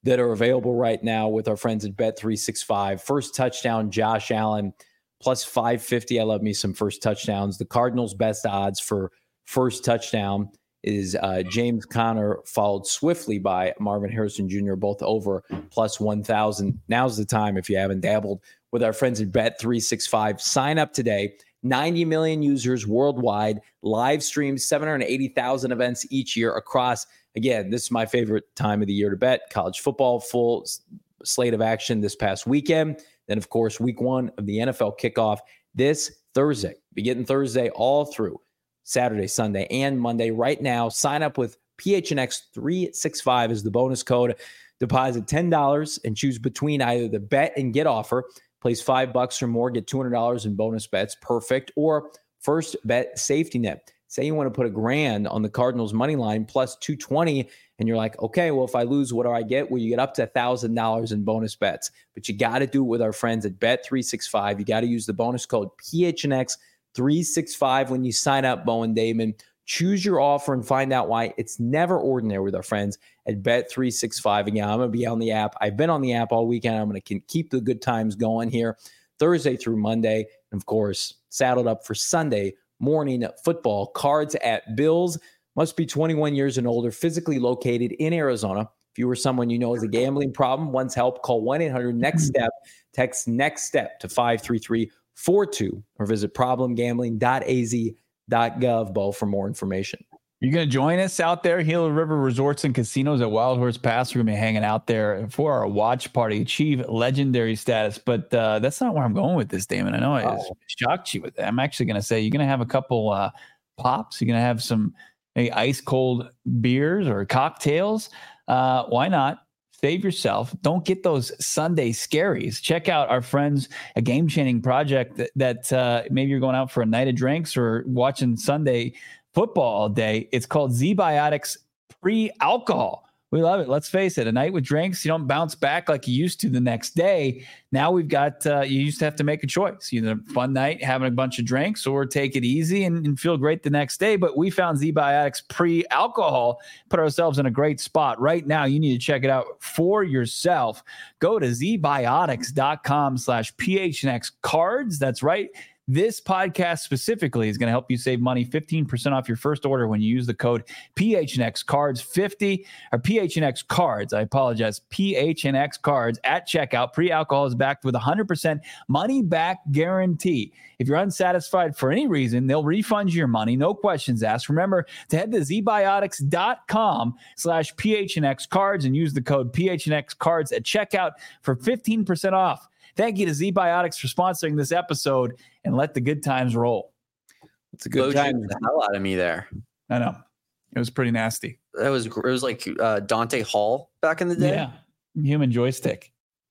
that are available right now with our friends at Bet three sixty-five. First touchdown, Josh Allen, plus five fifty. I love me some first touchdowns. The Cardinals' best odds for first touchdown is uh, James Conner, followed swiftly by Marvin Harrison Junior, both over plus one thousand. Now's the time if you haven't dabbled with our friends at Bet three sixty-five. Sign up today. ninety million users worldwide, live streams, seven hundred eighty thousand events each year across. Again, this is my favorite time of the year to bet. College football, full slate of action this past weekend. Then, of course, week one of the N F L kickoff this Thursday. Be getting Thursday all through Saturday, Sunday, and Monday. Right now, sign up with P H N X three sixty-five is the bonus code. Deposit ten dollars and choose between either the bet and get offer. Place five bucks or more, get two hundred dollars in bonus bets. Perfect. Or first bet safety net. Say you want to put a grand on the Cardinals money line plus two twenty, and you're like, okay, well, if I lose, what do I get? Well, you get up to one thousand dollars in bonus bets. But you got to do it with our friends at Bet three sixty-five. You got to use the bonus code P H N X three sixty-five when you sign up, Bowen Damon. Choose your offer and find out why it's never ordinary with our friends at Bet three sixty-five. Again, I'm going to be on the app. I've been on the app all weekend. I'm going to keep the good times going here Thursday through Monday. And of course, saddled up for Sunday morning football. Cards at Bills. Must be twenty-one years and older, physically located in Arizona. If you or someone you know has a gambling problem, wants help, call one eight hundred next step. Text NEXTSTEP to five three three four two or visit problem gambling dot a z dot gov, Bo, for more information. You're going to join us out there, Gila River Resorts and Casinos at Wild Horse Pass. We're going to be hanging out there for our watch party, achieve legendary status. But uh, that's not where I'm going with this, Damon. I know I oh. shocked you with that. I'm actually going to say you're going to have a couple uh, pops. You're going to have some maybe ice cold beers or cocktails. Uh, why not? Save yourself. Don't get those Sunday scaries. Check out our friends, a game-changing project that, that uh, maybe you're going out for a night of drinks or watching Sunday football all day. It's called Z-Biotics Pre-Alcohol. We love it. Let's face it. A night with drinks, you don't bounce back like you used to the next day. Now we've got, uh, you used to have to make a choice. Either a fun night, having a bunch of drinks, or take it easy and, and feel great the next day. But we found Z-Biotics Pre-Alcohol, put ourselves in a great spot. Right now, you need to check it out for yourself. Go to zbiotics.com slash PHNX cards. That's right. This podcast specifically is going to help you save money, fifteen percent off your first order when you use the code P H N X cards fifty or P H N X cards. I apologize. P H N X cards at checkout. Pre-alcohol is backed with a one hundred percent money back guarantee. If you're unsatisfied for any reason, they'll refund you your money. No questions asked. Remember to head to zbiotics.com slash PHNX cards and use the code P H N X cards at checkout for fifteen percent off. Thank you to Z-Biotics for sponsoring this episode, and let the good times roll. It's a good time. The hell out of me there. I know. It was pretty nasty. That was, it was like uh, Dante Hall back in the day. Yeah. Human joystick.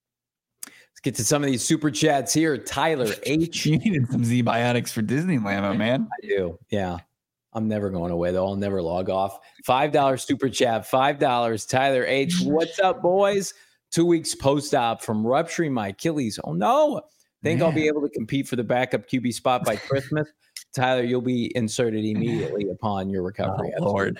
Let's get to some of these super chats here. Tyler H. You needed some Z-Biotics for Disneyland, my man. I do. Yeah. I'm never going away, though. I'll never log off. five dollars super chat. five dollars. Tyler H. What's up, boys? Two weeks post-op from rupturing my Achilles. Oh, no. Think Man. I'll be able to compete for the backup Q B spot by Christmas? Tyler, you'll be inserted immediately upon your recovery. Oh, Lord.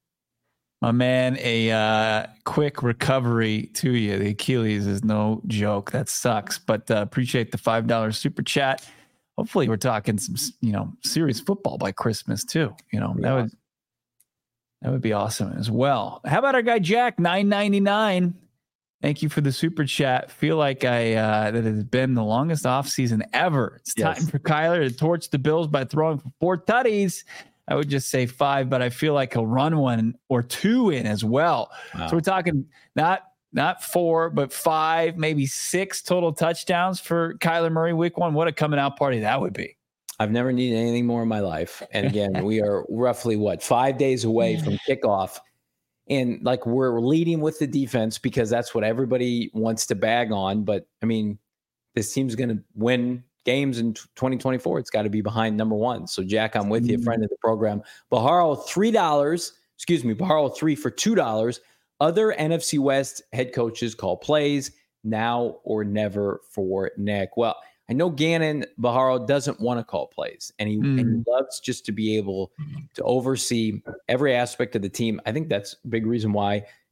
My man, a uh, quick recovery to you. The Achilles is no joke. That sucks. But uh, appreciate the five dollars super chat. Hopefully we're talking some, you know, serious football by Christmas, too. You know, yeah. that would that would be awesome as well. How about our guy Jack, nine ninety-nine? Thank you for the super chat. Feel like I uh, that has been the longest offseason ever. It's yes. time for Kyler to torch the Bills by throwing for four tutties. I would just say five, but I feel like he'll run one or two in as well. Wow. So we're talking not not four, but five, maybe six total touchdowns for Kyler Murray week one. What a coming out party that would be. I've never needed anything more in my life. And again, we are roughly, what, five days away from kickoff. And like we're leading with the defense because that's what everybody wants to bag on. But I mean, this team's going to win games in twenty twenty-four. It's got to be behind number one. So Jack, I'm with you, friend of the program. Baharo, three dollars, excuse me, Baharo three for two dollars. Other N F C West head coaches call plays now or never for Nick. Well, I know Gannon Baharo doesn't want to call plays, and he, mm. and he loves just to be able to oversee every aspect of the team. I think that's a big reason why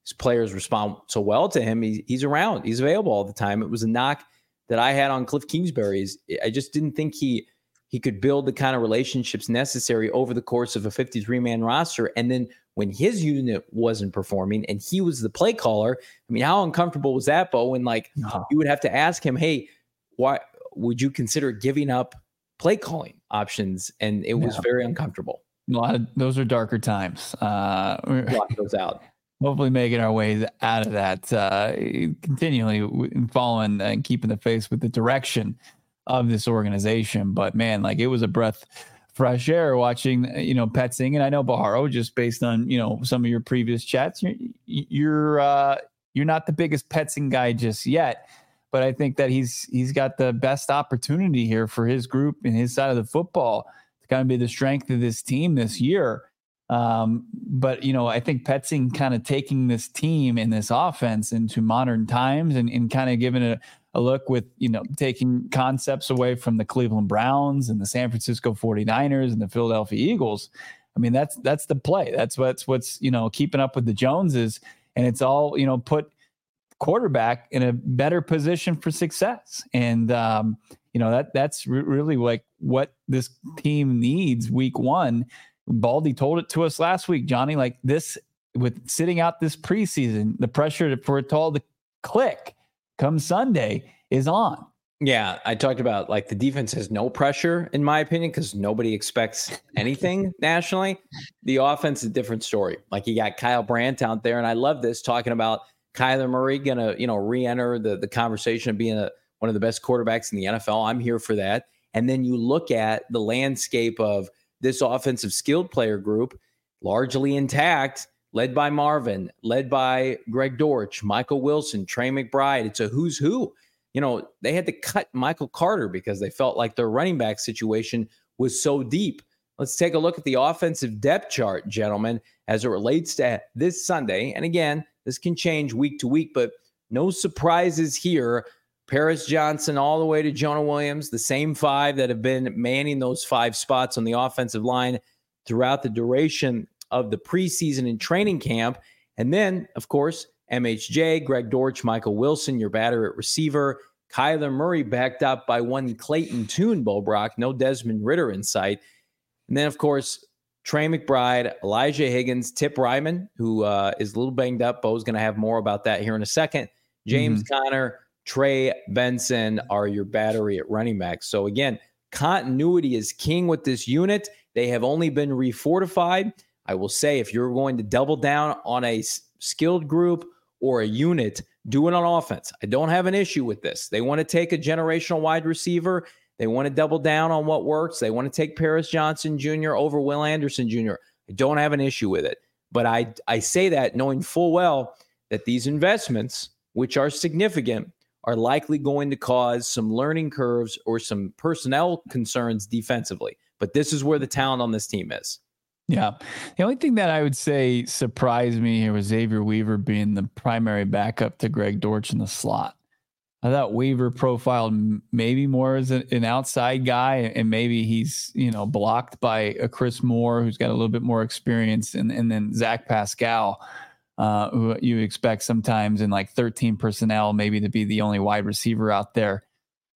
his players respond so well to him. He, he's around. He's available all the time. It was a knock that I had on Cliff Kingsbury. I just didn't think he he could build the kind of relationships necessary over the course of a fifty-three man roster. And then when his unit wasn't performing and he was the play caller, I mean, how uncomfortable was that, Bo? When like no. you would have to ask him, hey, why would you consider giving up play calling options? And it was yeah. very uncomfortable. A lot of those are darker times. Uh, Block those out. Hopefully making our way out of that, uh, continually following and keeping the face with the direction of this organization. But man, like it was a breath fresh air watching, you know, Petzing. And I know Baharo, just based on, you know, some of your previous chats, you're, you're, uh, you're not the biggest Petzing guy just yet, but I think that he's, he's got the best opportunity here for his group and his side of the football to kind of be the strength of this team this year. Um, but, you know, I think Petzing kind of taking this team and this offense into modern times and, and kind of giving it a, a look with, you know, taking concepts away from the Cleveland Browns and the San Francisco forty-niners and the Philadelphia Eagles. I mean, that's, that's the play. That's what's, what's, you know, keeping up with the Joneses, and it's all, you know, put quarterback in a better position for success. And, um, you know, that that's re- really like what this team needs week one. Baldy told it to us last week, Johnny, like this with sitting out this preseason, the pressure for it to all to click come Sunday is on. Yeah. I talked about like the defense has no pressure in my opinion, because nobody expects anything nationally. The offense is a different story. Like you got Kyle Brandt out there. And I love this talking about Kyler Murray going to, you know, re-enter the, the conversation of being a, one of the best quarterbacks in the N F L. I'm here for that. And then you look at the landscape of this offensive skilled player group, largely intact, led by Marvin, led by Greg Dortch, Michael Wilson, Trey McBride. It's a who's who. You know, they had to cut Michael Carter because they felt like their running back situation was so deep. Let's take a look at the offensive depth chart, gentlemen, as it relates to this Sunday. And again, this can change week to week, but no surprises here. Paris Johnson all the way to Jonah Williams, the same five that have been manning those five spots on the offensive line throughout the duration of the preseason and training camp. And then, of course, M H J, Greg Dortch, Michael Wilson, your batter at receiver, Kyler Murray backed up by one Clayton Tune, Bo Brock, no Desmond Ridder in sight. And then, of course, Trey McBride, Elijah Higgins, Tip Ryman, who uh, is a little banged up. Bo's going to have more about that here in a second. James mm-hmm. Conner, Trey Benson are your battery at running back. So again, continuity is king with this unit. They have only been refortified. I will say, if you're going to double down on a skilled group or a unit, do it on offense. I don't have an issue with this. They want to take a generational wide receiver. They want to double down on what works. They want to take Paris Johnson Junior over Will Anderson Junior I don't have an issue with it. But I, I say that knowing full well that these investments, which are significant, are likely going to cause some learning curves or some personnel concerns defensively. But this is where the talent on this team is. Yeah. The only thing that I would say surprised me here was Xavier Weaver being the primary backup to Greg Dortch in the slot. I thought Weaver profiled maybe more as an outside guy, and maybe he's, you know, blocked by a Chris Moore who's got a little bit more experience, and, and then Zach Pascal, uh, who you expect sometimes in like thirteen personnel, maybe to be the only wide receiver out there.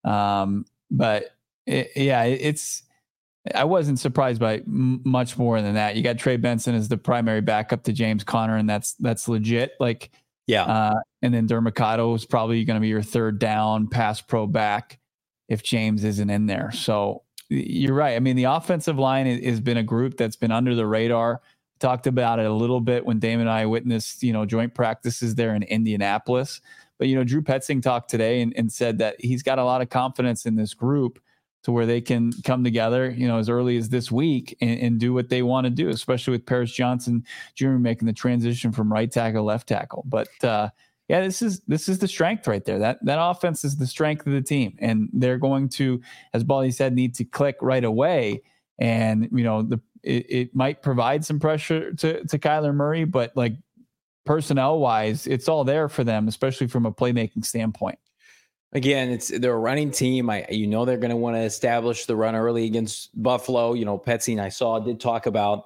Um, but it, yeah, it, it's, I wasn't surprised by m- much more than that. You got Trey Benson as the primary backup to James Conner, and that's, that's legit. Like, yeah. Uh, and then Dermacado is probably going to be your third down pass pro back if James isn't in there. So you're right. I mean, the offensive line has been a group that's been under the radar. Talked about it a little bit when Damon and I witnessed, you know, joint practices there in Indianapolis. But, you know, Drew Petzing talked today and, and said that he's got a lot of confidence in this group to where they can come together, you know, as early as this week and, and do what they want to do, especially with Paris Johnson Junior making the transition from right tackle, left tackle. But uh, yeah, this is, this is the strength right there. That, that offense is the strength of the team. And they're going to, as Baldy said, need to click right away. And, you know, the, it, it might provide some pressure to, to Kyler Murray, but like personnel wise, it's all there for them, especially from a playmaking standpoint. Again, it's they're a running team. I, you know, they're going to want to establish the run early against Buffalo. You know, Petzing, I saw, did talk about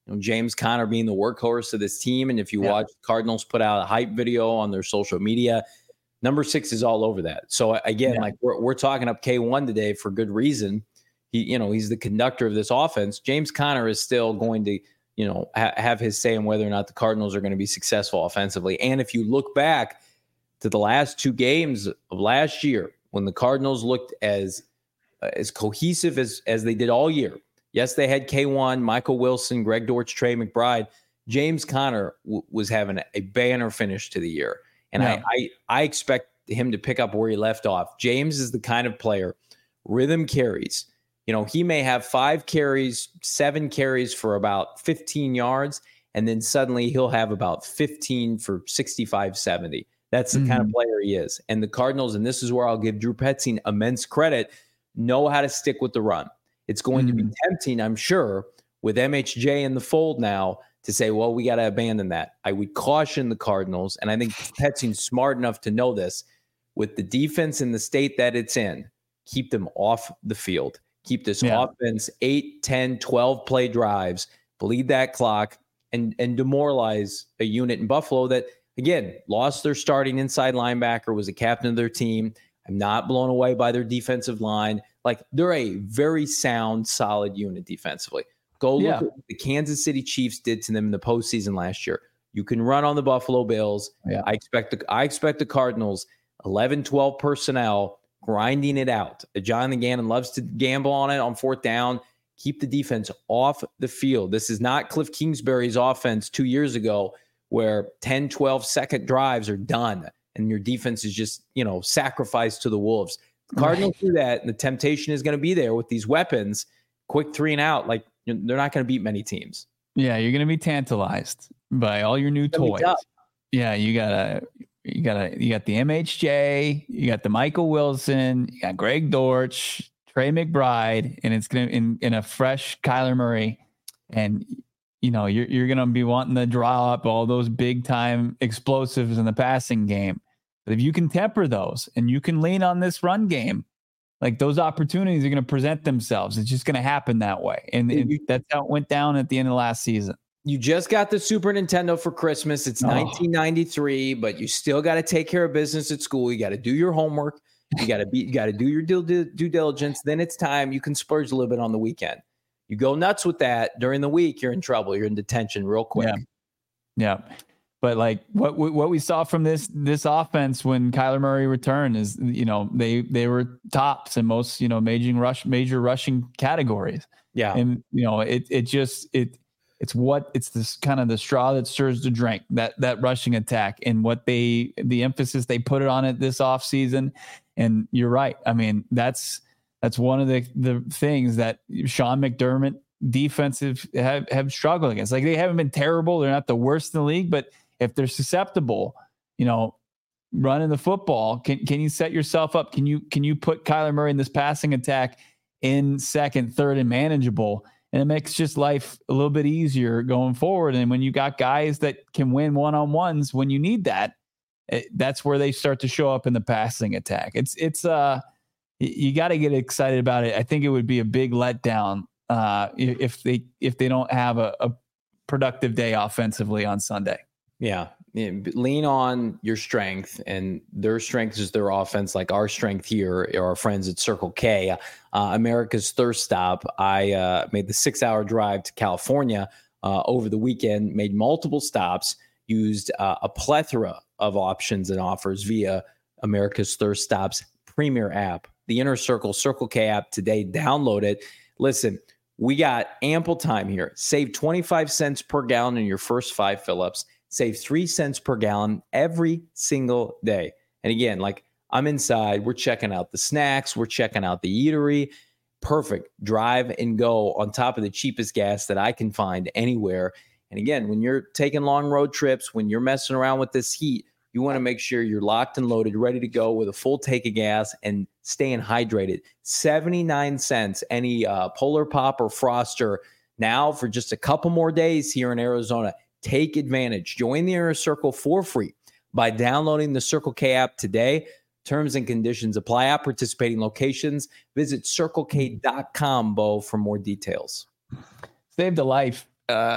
you know, James Conner being the workhorse of this team. And if you yeah. watch Cardinals put out a hype video on their social media, number six is all over that. So again, yeah. like we're, we're talking up K one today for good reason. He, you know, he's the conductor of this offense. James Conner is still going to, you know, ha- have his say in whether or not the Cardinals are going to be successful offensively. And if you look back to the last two games of last year, when the Cardinals looked as uh, as cohesive as as they did all year. Yes, they had K one, Michael Wilson, Greg Dortch, Trey McBride. James Conner w- was having a banner finish to the year. And yeah. I, I I expect him to pick up where he left off. James is the kind of player, rhythm carries. You know, he may have five carries, seven carries for about fifteen yards, and then suddenly he'll have about fifteen for sixty-five, seventy. That's the mm-hmm. kind of player he is. And the Cardinals, and this is where I'll give Drew Petzing immense credit, know how to stick with the run. It's going mm-hmm. to be tempting, I'm sure, with M H J in the fold now to say, well, we got to abandon that. I would caution the Cardinals, and I think Petzing's smart enough to know this, with the defense in the state that it's in, keep them off the field. Keep this yeah. offense eight, ten, twelve play drives, bleed that clock, and, and demoralize a unit in Buffalo that, again, lost their starting inside linebacker, was a captain of their team. I'm not blown away by their defensive line. Like, they're a very sound, solid unit defensively. Go look yeah. at what the Kansas City Chiefs did to them in the postseason last year. You can run on the Buffalo Bills. Yeah. I expect the I expect the Cardinals, eleven, twelve personnel, grinding it out. Jonathan Gannon loves to gamble on it on fourth down. Keep the defense off the field. This is not Cliff Kingsbury's offense two years ago where ten, twelve second drives are done and your defense is just, you know, sacrificed to the Wolves. The Cardinals right. do that, and the temptation is going to be there with these weapons. Quick three and out. Like, they're not going to beat many teams. Yeah, you're going to be tantalized by all your new toys. Yeah, you got a You got a, you got the M H J, you got the Michael Wilson, you got Greg Dortch, Trey McBride, and it's gonna in, in a fresh Kyler Murray, and you know you're you're gonna be wanting to draw up all those big time explosives in the passing game. But if you can temper those and you can lean on this run game, like, those opportunities are gonna present themselves. It's just gonna happen that way, and, and that's how it went down at the end of last season. You just got the Super Nintendo for Christmas. It's oh. nineteen ninety-three, but you still got to take care of business at school. You got to do your homework. You got to be, you got to do your due, due diligence. Then it's time. You can splurge a little bit on the weekend. You go nuts with that during the week, you're in trouble. You're in detention real quick. Yeah. yeah. But like what what we saw from this this offense when Kyler Murray returned is, you know, they they were tops in most, you know, major rush major rushing categories. Yeah. And you know, it it just it It's what it's this kind of the straw that stirs the drink, that that rushing attack, and what they the emphasis they put it on it this offseason. And you're right. I mean, that's that's one of the the things that Sean McDermott defensive have, have struggled against. Like, they haven't been terrible. They're not the worst in the league, but if they're susceptible, you know, running the football, can can you set yourself up? Can you can you put Kyler Murray in this passing attack in second, third, and manageable? And it makes just life a little bit easier going forward. And when you got guys that can win one-on-ones when you need that, it, that's where they start to show up in the passing attack. It's, it's, uh, you got to get excited about it. I think it would be a big letdown uh, if they, if they don't have a, a productive day offensively on Sunday. Yeah. Lean on your strength, and their strength is their offense. Like, our strength here are our friends at Circle K, uh, America's thirst stop. I uh, made the six hour drive to California uh, over the weekend, made multiple stops, used uh, a plethora of options and offers via America's Thirst Stop's premier app, the Inner Circle Circle K app today. Download it. Listen, we got ample time here. Save twenty-five cents per gallon in your first five fill-ups. Save three cents per gallon every single day. And again, like, I'm inside, we're checking out the snacks, we're checking out the eatery. Perfect. Drive and go on top of the cheapest gas that I can find anywhere. And again, when you're taking long road trips, when you're messing around with this heat, you want to make sure you're locked and loaded, ready to go with a full tank of gas and staying hydrated. seventy-nine cents, any uh, Polar Pop or Froster now for just a couple more days here in Arizona. Take advantage. Join the Inner Circle for free by downloading the Circle K app today. Terms and conditions apply at participating locations. Visit circle k dot com, Bo, for more details. Saved a life. Uh,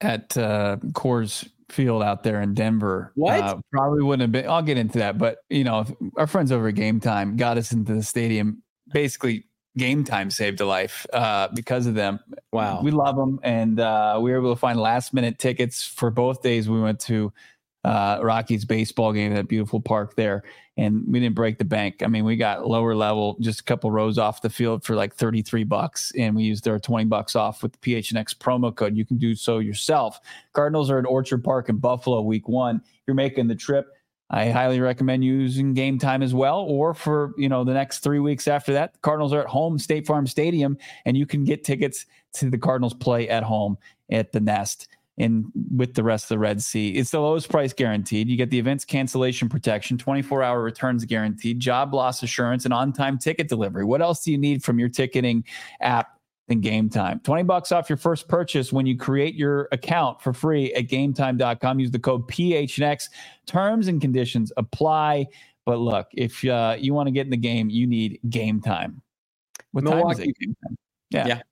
at uh, Coors Field out there in Denver. What? Uh, probably wouldn't have been. I'll get into that, but you know, our friends over at Game Time got us into the stadium. Basically, Game Time saved a life uh, because of them. Wow, we love them, and uh, we were able to find last minute tickets for both days. We went to uh, Rockies baseball game at that beautiful park there, and we didn't break the bank. I mean, we got lower level, just a couple rows off the field for like thirty-three bucks, and we used our twenty bucks off with the P H N X promo code. You can do so yourself. Cardinals are at Orchard Park in Buffalo week one. If you're making the trip, I highly recommend using Game Time as well, or for, you know, the next three weeks after that, the Cardinals are at home, State Farm Stadium, and you can get tickets to the Cardinals play at home at the Nest and with the rest of the Red Sea. It's the lowest price guaranteed. You get the event's cancellation protection, twenty-four hour returns guaranteed, job loss assurance, and on-time ticket delivery. What else do you need from your ticketing app than Game Time? twenty bucks off your first purchase when you create your account for free at game time dot com. Use the code P H N X. Terms and conditions apply. But look, if uh, you want to get in the game, you need Game Time. What Milwaukee. time is it? Game Time? Yeah. yeah.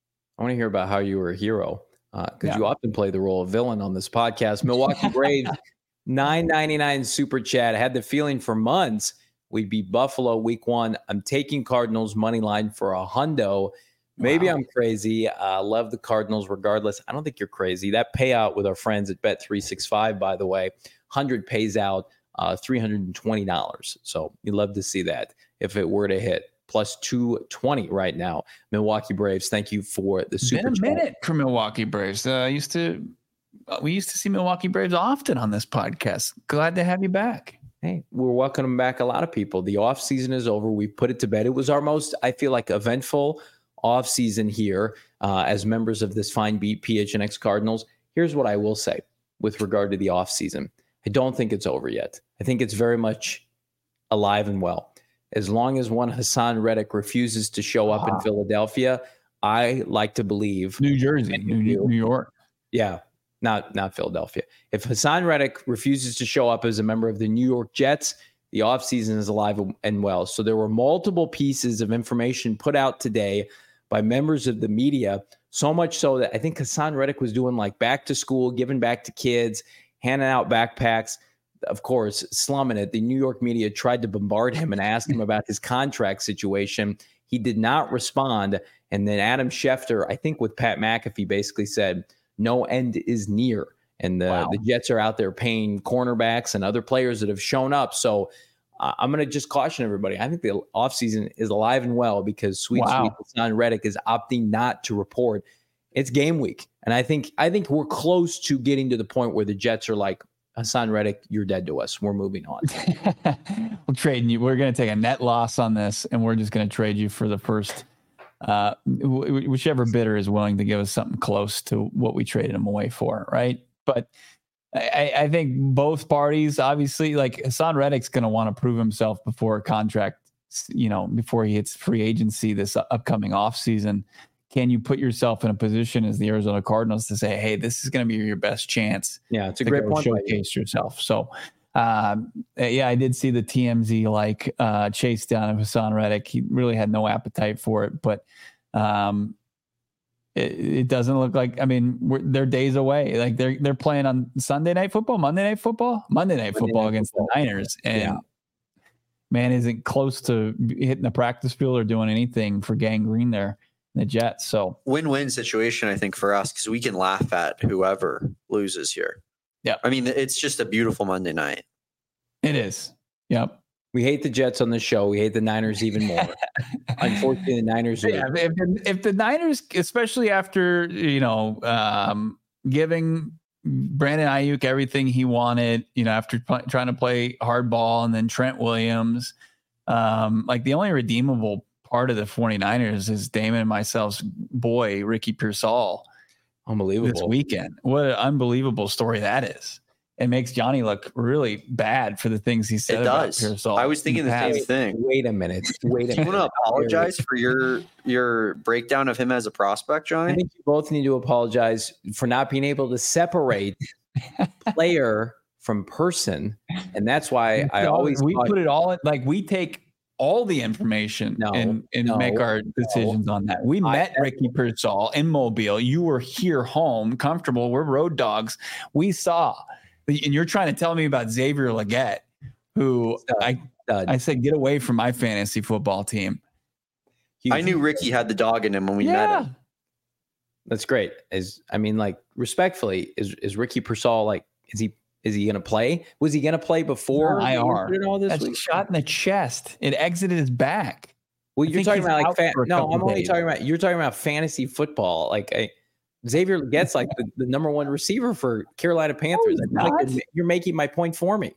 I want to hear about how you were a hero, because uh, yeah. you often play the role of villain on this podcast. Milwaukee Braves, nine ninety-nine super chat. I had the feeling for months we'd be Buffalo week one. I'm taking Cardinals money line for a hundo. Maybe wow. I'm crazy. Uh, love the Cardinals regardless. I don't think you're crazy. That payout with our friends at Bet three sixty-five, by the way, one hundred pays out uh, three hundred twenty dollars. So you'd love to see that if it were to hit. Plus two twenty right now. Milwaukee Braves, thank you for the super chat. Been a chat. minute for Milwaukee Braves. Uh, used to, we used to see Milwaukee Braves often on this podcast. Glad to have you back. Hey, we're welcoming back a lot of people. The off season is over. We put it to bed. It was our most, I feel like, eventful off season here uh, as members of this fine beat P H N X Cardinals. Here's what I will say with regard to the off season. I don't think it's over yet. I think it's very much alive and well. As long as one Hassan Reddick refuses to show up wow. in Philadelphia, I like to believe New Jersey, New, New York. Yeah, not not Philadelphia. If Hassan Reddick refuses to show up as a member of the New York Jets, the offseason is alive and well. So there were multiple pieces of information put out today by members of the media, so much so that I think Hassan Reddick was doing like back to school, giving back to kids, handing out backpacks. Of course, slumming it. The New York media tried to bombard him and ask him about his contract situation. He did not respond. And then Adam Schefter, I think with Pat McAfee, basically said, no end is near. And the, wow. the Jets are out there paying cornerbacks and other players that have shown up. So uh, I'm going to just caution everybody. I think the offseason is alive and well because sweet, wow. sweet Hassan Reddick is opting not to report. It's game week. And I think I think we're close to getting to the point where the Jets are like, Hassan Reddick, you're dead to us. We're moving on. We're trading you. We're going to take a net loss on this, and we're just going to trade you for the first, uh, w- whichever bidder is willing to give us something close to what we traded him away for, right? But I, I think both parties, obviously, like Hassan Reddick's going to want to prove himself before a contract, you know, before he hits free agency this upcoming offseason. Can you put yourself in a position as the Arizona Cardinals to say, hey, this is going to be your best chance? Yeah, it's a great point. Showcase yourself. So, um, yeah, I did see the T M Z like uh, chase down of Hassan Reddick. He really had no appetite for it, but um, it, it doesn't look like. I mean, we're, they're days away. Like they're they're playing on Sunday Night Football, Monday Night Football, Monday Night Monday Football night against football. the Niners, and yeah. man isn't close to hitting the practice field or doing anything for Gang Green there. The Jets. So win-win situation, I think, for us, because we can laugh at whoever loses here. Yeah. I mean, it's just a beautiful Monday night. It is. Yep. We hate the Jets on the show. We hate the Niners even more. Unfortunately, the Niners. Yeah, if, if the Niners, especially after, you know, um, giving Brandon Ayuk everything he wanted, you know, after p- trying to play hardball, and then Trent Williams, um, like the only redeemable part of the 49ers is Damon and myself's boy, Ricky Pearsall. Unbelievable. This weekend. What an unbelievable story that is. It makes Johnny look really bad for the things he said it about does. Pearsall. I was thinking the past. same thing. Wait a minute. Wait a minute. Do you want to apologize for your your breakdown of him as a prospect, Johnny? I think you both need to apologize for not being able to separate player from person. And that's why I always we thought, put it all in, like we take all the information no, and, and no, make our decisions no. on that. We I, met Ricky Pearsall in Mobile. You were here home, comfortable. We're road dogs. We saw, and you're trying to tell me about Xavier Legette, who stud, I stud. I said, get away from my fantasy football team. He, I knew Ricky had the dog in him when we yeah. met him. That's great. Is I mean, like, respectfully, is is Ricky Pearsall, like, is he is he gonna play? Was he gonna play before I R? All this That's week? A shot in the chest. It exited his back. Well, you're talking about like fa- no, I'm only days. talking about you're talking about fantasy football. Like I, Xavier gets like the, the number one receiver for Carolina Panthers. No, like, you're making my point for me.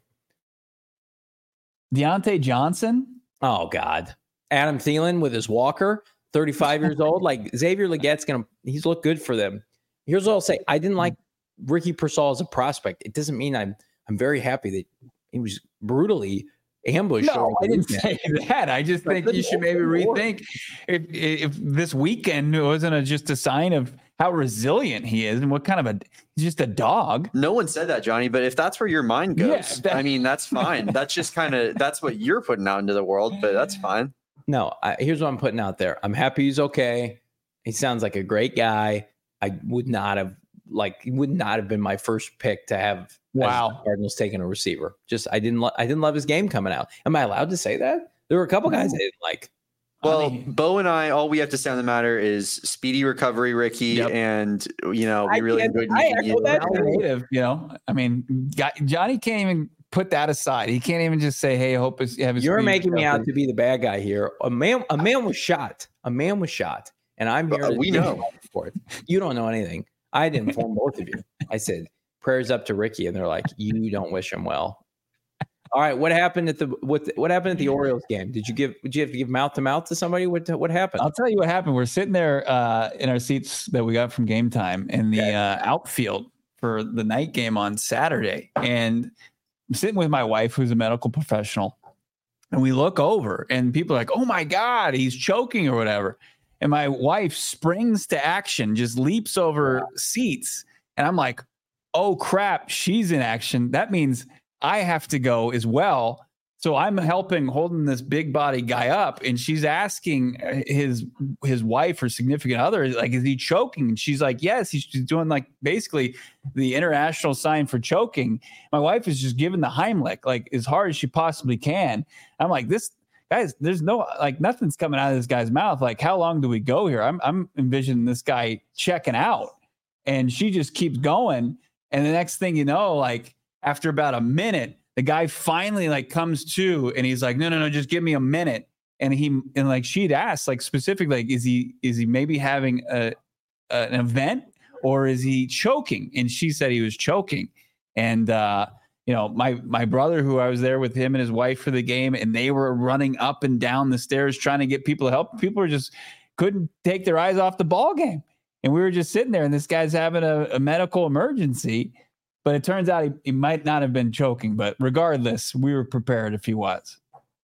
Deontay Johnson. Oh God, Adam Thielen with his walker. thirty-five years old. Like Xavier Legette's going to, he's looked good for them. Here's what I'll say. I didn't like Ricky Pearsall as a prospect. It doesn't mean I'm, I'm very happy that he was brutally ambushed. No, I didn't say that. I just think you should maybe rethink if, if this weekend wasn't a, just a sign of how resilient he is and what kind of a, he's just a dog. No one said that, Johnny, but if that's where your mind goes, yeah, that, I mean, that's fine. That's just kind of, that's what you're putting out into the world, but that's fine. No, I, here's what I'm putting out there. I'm happy he's okay. He sounds like a great guy. I would not have like he would not have been my first pick to have. Wow, Cardinals taking a receiver. Just I didn't. Lo- I didn't love his game coming out. Am I allowed to say that? There were a couple guys I didn't like. Well, I mean, Bo and I, all we have to say on the matter is speedy recovery, Ricky, yep. and you know we I really enjoyed meeting you. That native, you know, I mean, Johnny can't even put that aside. He can't even just say, "Hey, I hope it's." Have You're making me out to be the bad guy here. A man, a man was shot. A man was shot, and I'm here. Uh, we know for it. You don't know anything. I didn't inform both of you. I said prayers up to Ricky, and they're like, "You don't wish him well." All right, what happened at the what? What happened at the Orioles game? Did you give? Did you have to give mouth to mouth to somebody? What What happened? I'll tell you what happened. We're sitting there uh, in our seats that we got from Game Time in the okay. uh, outfield for the night game on Saturday, and I'm sitting with my wife, who's a medical professional, and we look over, and people are like, "Oh my God, he's choking or whatever." And my wife springs to action, just leaps over wow. seats, and I'm like, "Oh crap, she's in action." That means I have to go as well. So I'm helping holding this big body guy up, and she's asking his his wife or significant other, like, is he choking? And she's like, yes. He's doing like basically the international sign for choking. My wife is just giving the Heimlich like as hard as she possibly can. I'm like, this guys, there's no like nothing's coming out of this guy's mouth. Like, how long do we go here? I'm I'm envisioning this guy checking out, and she just keeps going. And the next thing you know, like, after about a minute, the guy finally like comes to, and he's like, no, no, no, just give me a minute. And he, and like, she'd asked like specifically, like, is he, is he maybe having a, a, an event or is he choking? And she said he was choking. And, uh, you know, my, my brother, who I was there with him and his wife for the game, and they were running up and down the stairs trying to get people to help. People were just couldn't take their eyes off the ball game. And we were just sitting there, and this guy's having a, a medical emergency. But it turns out he, he might not have been choking. But regardless, we were prepared if he was.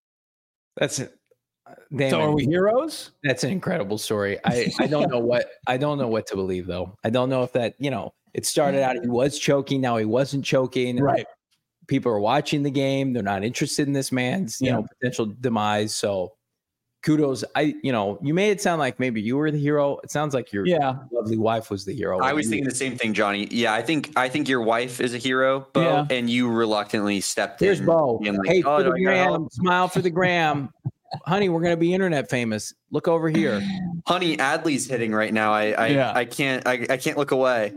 That's it. Damn, so are we heroes? That's an incredible story. I, I don't know what I don't know what to believe though. I don't know if that, you know, it started out he was choking, now he wasn't choking. Right. People are watching the game. They're not interested in this man's, you yeah. know, potential demise. So kudos. I, you know, you made it sound like maybe you were the hero. It sounds like your yeah. lovely wife was the hero. I was thinking the same thing, Johnny. Yeah, I think I think your wife is a hero, Bo, yeah. and you reluctantly stepped Here's in. Here's Bo. Like, hey, oh, for the gram, smile for the gram. Honey, we're going to be internet famous. Look over here. Honey, Adley's hitting right now. I I, yeah. I can't I, I can't look away.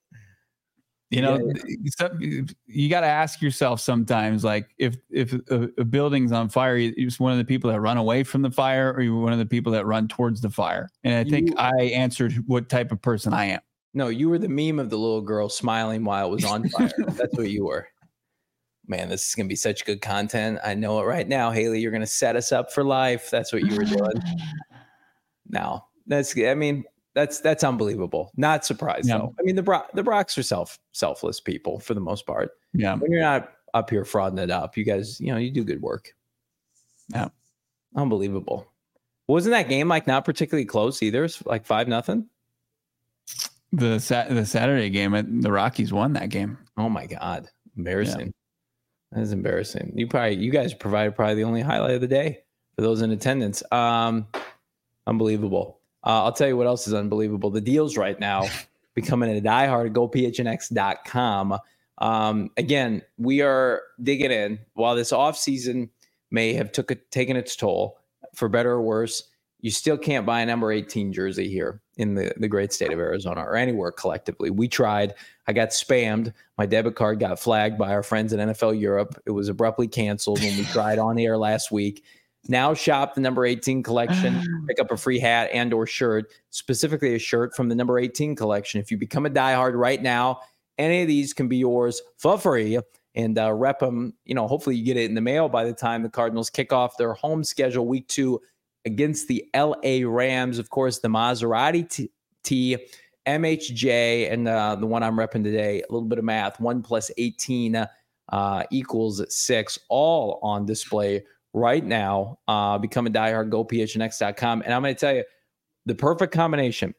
You know, yeah. you got to ask yourself sometimes, like, if if a, a building's on fire, you're one of the people that run away from the fire, or you're one of the people that run towards the fire. And I think you, I answered what type of person I am. No, you were the meme of the little girl smiling while it was on fire. That's what you were. Man, this is going to be such good content. I know it right now. Haley, you're going to set us up for life. That's what you were doing. Now, that's, I mean, That's that's unbelievable. Not surprised yeah. though. I mean, the Bro- the Brocs are self selfless people for the most part. Yeah. When you're not up here frauding it up, you guys, you know, you do good work. Yeah. Unbelievable. Wasn't that game like not particularly close either? It's like five nothing. The sat the Saturday game, the Rockies won that game. Oh my God, embarrassing. Yeah. That is embarrassing. You probably you guys provided probably the only highlight of the day for those in attendance. Um, unbelievable. Uh, I'll tell you what else is unbelievable. The deals right now, becoming a diehard, go P H N X dot com. Um, again, we are digging in. While this offseason may have took a, taken its toll, for better or worse, you still can't buy a number eighteen jersey here in the, the great state of Arizona or anywhere collectively. We tried. I got spammed. My debit card got flagged by our friends at N F L Europe. It was abruptly canceled when we tried on air last week. Now shop the number eighteen collection, pick up a free hat and or shirt, specifically a shirt from the number eighteen collection. If you become a diehard right now, any of these can be yours for free, and uh, rep them. You know, hopefully you get it in the mail by the time the Cardinals kick off their home schedule week two against the L A Rams. Of course, the Maserati T, T M H J, and uh, the one I'm repping today, a little bit of math, one plus eighteen uh, equals six, all on display right now. Uh, become a diehard, go P H N X dot com. And I'm going to tell you, the perfect combination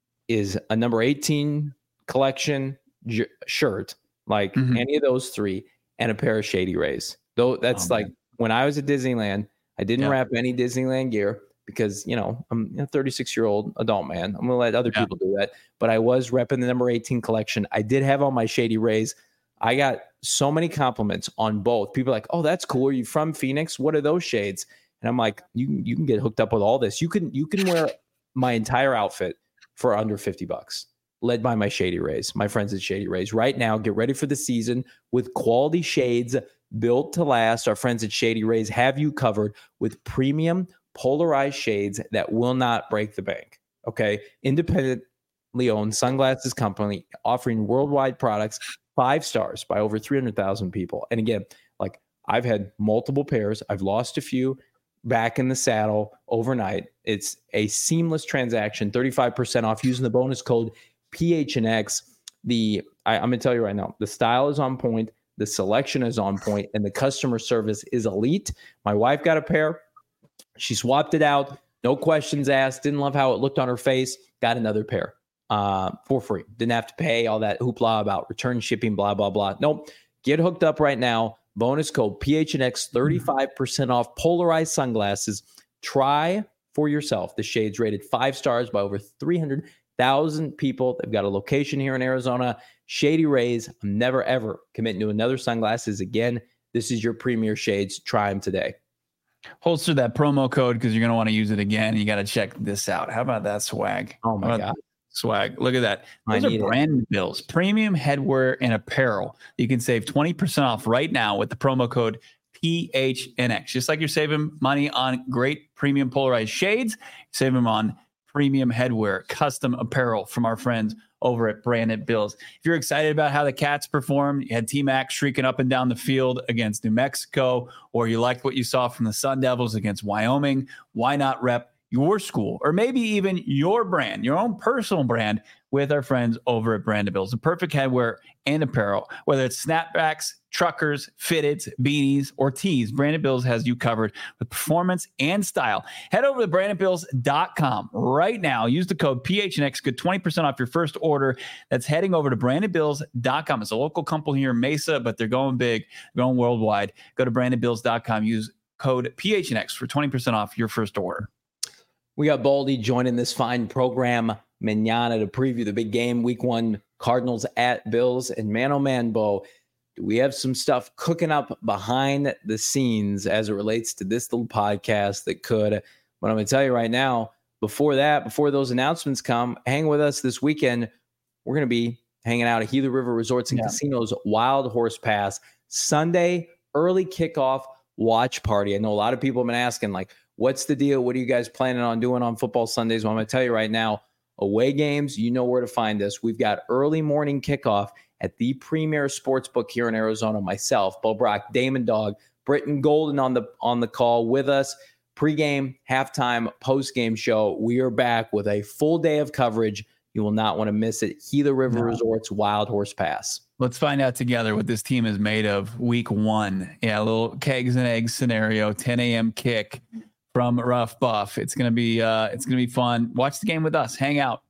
is a number eighteen collection j- shirt, like mm-hmm. any of those three, and a pair of Shady Rays. Though that's oh, like when I was at Disneyland, I didn't yeah. wrap any Disneyland gear because, you know, I'm a thirty-six year old adult man. I'm going to let other yeah. people do that. But I was repping the number eighteen collection. I did have all my Shady Rays. I got so many compliments on both. People are like, oh, that's cool. Are you from Phoenix? What are those shades? And I'm like, you, you can get hooked up with all this. You can, you can wear my entire outfit for under fifty bucks, led by my Shady Rays, my friends at Shady Rays. Right now, get ready for the season with quality shades built to last. Our friends at Shady Rays have you covered with premium polarized shades that will not break the bank. Okay. Independently owned sunglasses company offering worldwide products, five stars by over three hundred thousand people. And again, like I've had multiple pairs. I've lost a few back in the saddle overnight. It's a seamless transaction, thirty-five percent off using the bonus code P H N X. The I, I'm going to tell you right now, the style is on point. The selection is on point, and the customer service is elite. My wife got a pair. She swapped it out. No questions asked. Didn't love how it looked on her face. Got another pair uh, for free. Didn't have to pay all that hoopla about return shipping, blah, blah, blah. Nope. Get hooked up right now. Bonus code P H N X, thirty-five percent off polarized sunglasses. Try for yourself. The shades rated five stars by over three hundred thousand people. They've got a location here in Arizona. Shady Rays. I'm never, ever committing to another sunglasses again. This is your premier shades. Try them today. Holster that promo code because you're going to want to use it again. You got to check this out. How about that swag? Oh, my God. Swag. Look at that. Those are brand bills, premium headwear and apparel. You can save twenty percent off right now with the promo code P H N X. Just like you're saving money on great premium polarized shades, save them on premium headwear, custom apparel from our friends over at Branded Bills. If you're excited about how the Cats performed, you had T-Mac streaking up and down the field against New Mexico, or you liked what you saw from the Sun Devils against Wyoming, why not rep your school or maybe even your brand, your own personal brand with our friends over at Branded Bills? The perfect headwear and apparel, whether it's snapbacks, truckers, fitteds, beanies, or tees, Branded Bills has you covered with performance and style. Head over to branded bills dot com right now. Use the code P H N X, get twenty percent off your first order. That's heading over to branded bills dot com. It's a local company here in Mesa, but they're going big, going worldwide. Go to branded bills dot com. Use code P H N X for twenty percent off your first order. We got Baldy joining this fine program manana to preview the big game, week one, Cardinals at Bills. And man, oh man, Bo, do we have some stuff cooking up behind the scenes as it relates to this little podcast that could, but I'm going to tell you right now, before that, before those announcements come, hang with us this weekend. We're going to be hanging out at Gila River Resorts and yeah. Casinos Wild Horse Pass Sunday, early kickoff watch party. I know a lot of people have been asking, like, what's the deal? What are you guys planning on doing on football Sundays? Well, I'm going to tell you right now, away games, you know where to find us. We've got early morning kickoff at the premier sportsbook here in Arizona. Myself, Bo Brock, Damon Dog, Britton Golden on the on the call with us. Pre-game, halftime, post-game show. We are back with a full day of coverage. You will not want to miss it. Gila River no. Resorts Wild Horse Pass. Let's find out together what this team is made of week one. Yeah, a little kegs and eggs scenario, ten a.m. kick from Rough Buff. It's gonna be uh, it's gonna be fun. Watch the game with us. Hang out.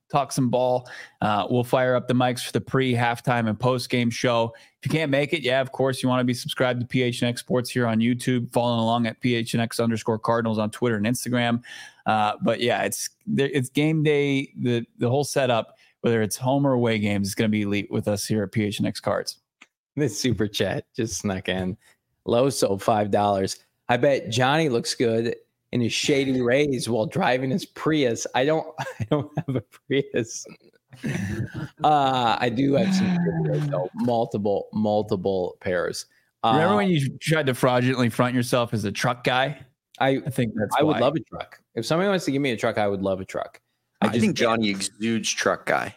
talk some ball. Uh, we'll fire up the mics for the pre, halftime, and post-game show. If you can't make it, yeah, of course, you want to be subscribed to P H N X Sports here on YouTube, following along at P H N X underscore Cardinals on Twitter and Instagram. Uh, but yeah, it's it's game day. The the whole setup, whether it's home or away games, is going to be elite with us here at P H N X Cards. This super chat just snuck in. Loso, five dollars. I bet Johnny looks good in his shady rays while driving his Prius. I don't I don't have a Prius. Uh, I do have some videos, though. multiple, multiple pairs. Uh, Remember when you tried to fraudulently front yourself as a truck guy? I, I think that's I why. would love a truck. If somebody wants to give me a truck, I would love a truck. I, I just think Johnny exudes truck guy.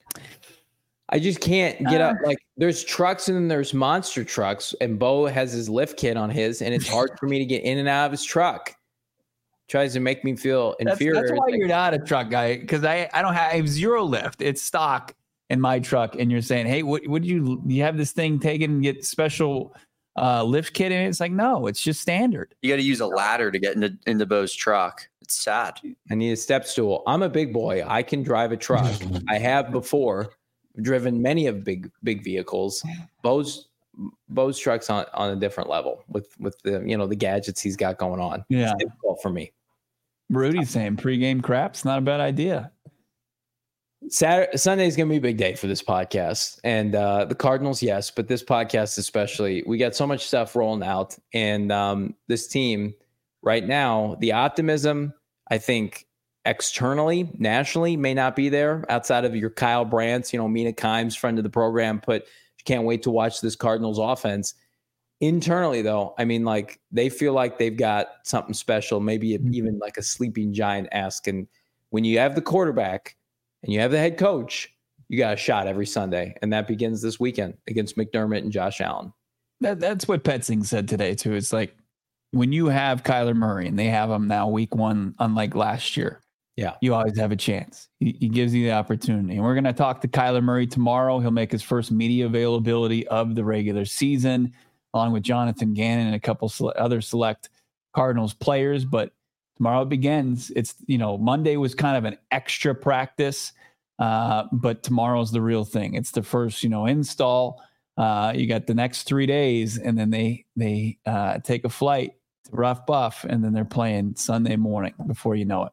I just can't get up. Like, there's trucks and then there's monster trucks, and Bo has his lift kit on his, and it's hard for me to get in and out of his truck. Tries to make me feel inferior. That's, that's why you're not a truck guy, because I, I don't have, I have zero lift. It's stock in my truck, and you're saying, hey, what would you you have this thing taken and get special uh, lift kit in it? It's like, no, it's just standard. You got to use a ladder to get into into Bo's truck. It's sad. I need a step stool. I'm a big boy. I can drive a truck. I have before driven many of big big vehicles. Bo's Bo's truck's on, on a different level with with the you know the gadgets he's got going on. Yeah, it's difficult for me. Rudy's saying pregame crap's not a bad idea. Saturday, Sunday is going to be a big day for this podcast, and uh, the Cardinals, yes, but this podcast especially. We got so much stuff rolling out, and um, this team right now, the optimism, I think, externally, nationally, may not be there outside of your Kyle Brandts, you know, Mina Kimes, friend of the program, put can't wait to watch this Cardinals offense. Internally, though, I mean, like, they feel like they've got something special, maybe mm-hmm. even like a sleeping giant-esque. And when you have the quarterback and you have the head coach, you got a shot every Sunday. And that begins this weekend against McDermott and Josh Allen. That, that's what Petzing said today, too. It's like when you have Kyler Murray, and they have him now week one, unlike last year, yeah, you always have a chance. He, he gives you the opportunity. And we're going to talk to Kyler Murray tomorrow. He'll make his first media availability of the regular season, along with Jonathan Gannon and a couple sele- other select Cardinals players. But tomorrow it begins. It's, you know, Monday was kind of an extra practice, uh, but tomorrow's the real thing. It's the first, you know, install. Uh, you got the next three days, and then they they uh, take a flight to Rough Buff, and then they're playing Sunday morning before you know it.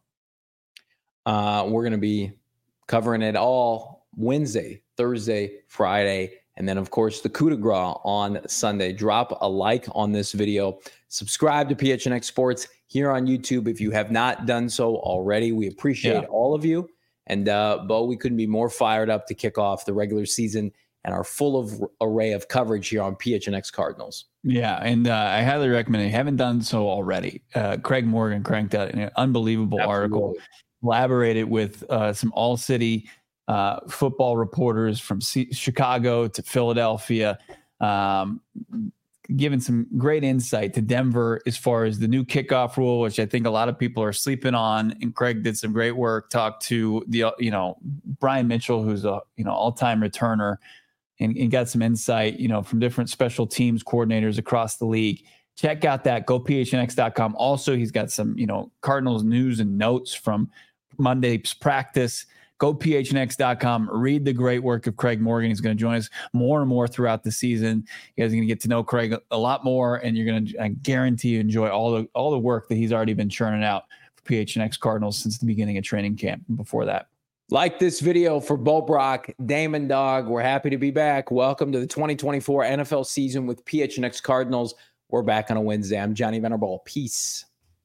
Uh, we're going to be covering it all Wednesday, Thursday, Friday, and then, of course, the coup de grace on Sunday. Drop a like on this video. Subscribe to P H N X Sports here on YouTube if you have not done so already. We appreciate yeah. all of you. And, uh, Bo, we couldn't be more fired up to kick off the regular season and our full of array of coverage here on P H N X Cardinals. Yeah, and uh, I highly recommend it. If you haven't done so already, uh, Craig Morgan cranked out an unbelievable Absolutely. article, collaborated with uh, some all-city uh, football reporters from C- Chicago to Philadelphia, um, giving some great insight to Denver as far as the new kickoff rule, which I think a lot of people are sleeping on. And Craig did some great work. Talked to the you know Brian Mitchell, who's a you know all-time returner, and, and got some insight you know from different special teams coordinators across the league. Check out that. Go P H N X dot com. Also, he's got some you know Cardinals news and notes from Monday's practice. Go P H N X dot com. Read the great work of Craig Morgan. He's going to join us more and more throughout the season. You guys are going to get to know Craig a lot more, and you're going to, I guarantee you, enjoy all the all the work that he's already been churning out for P H N X Cardinals since the beginning of training camp and before that. Like this video for Bo Brock, Damon Dog. We're happy to be back. Welcome to the twenty twenty-four N F L season with P H N X Cardinals. We're back on a Wednesday. I'm Johnny Venerable. Peace.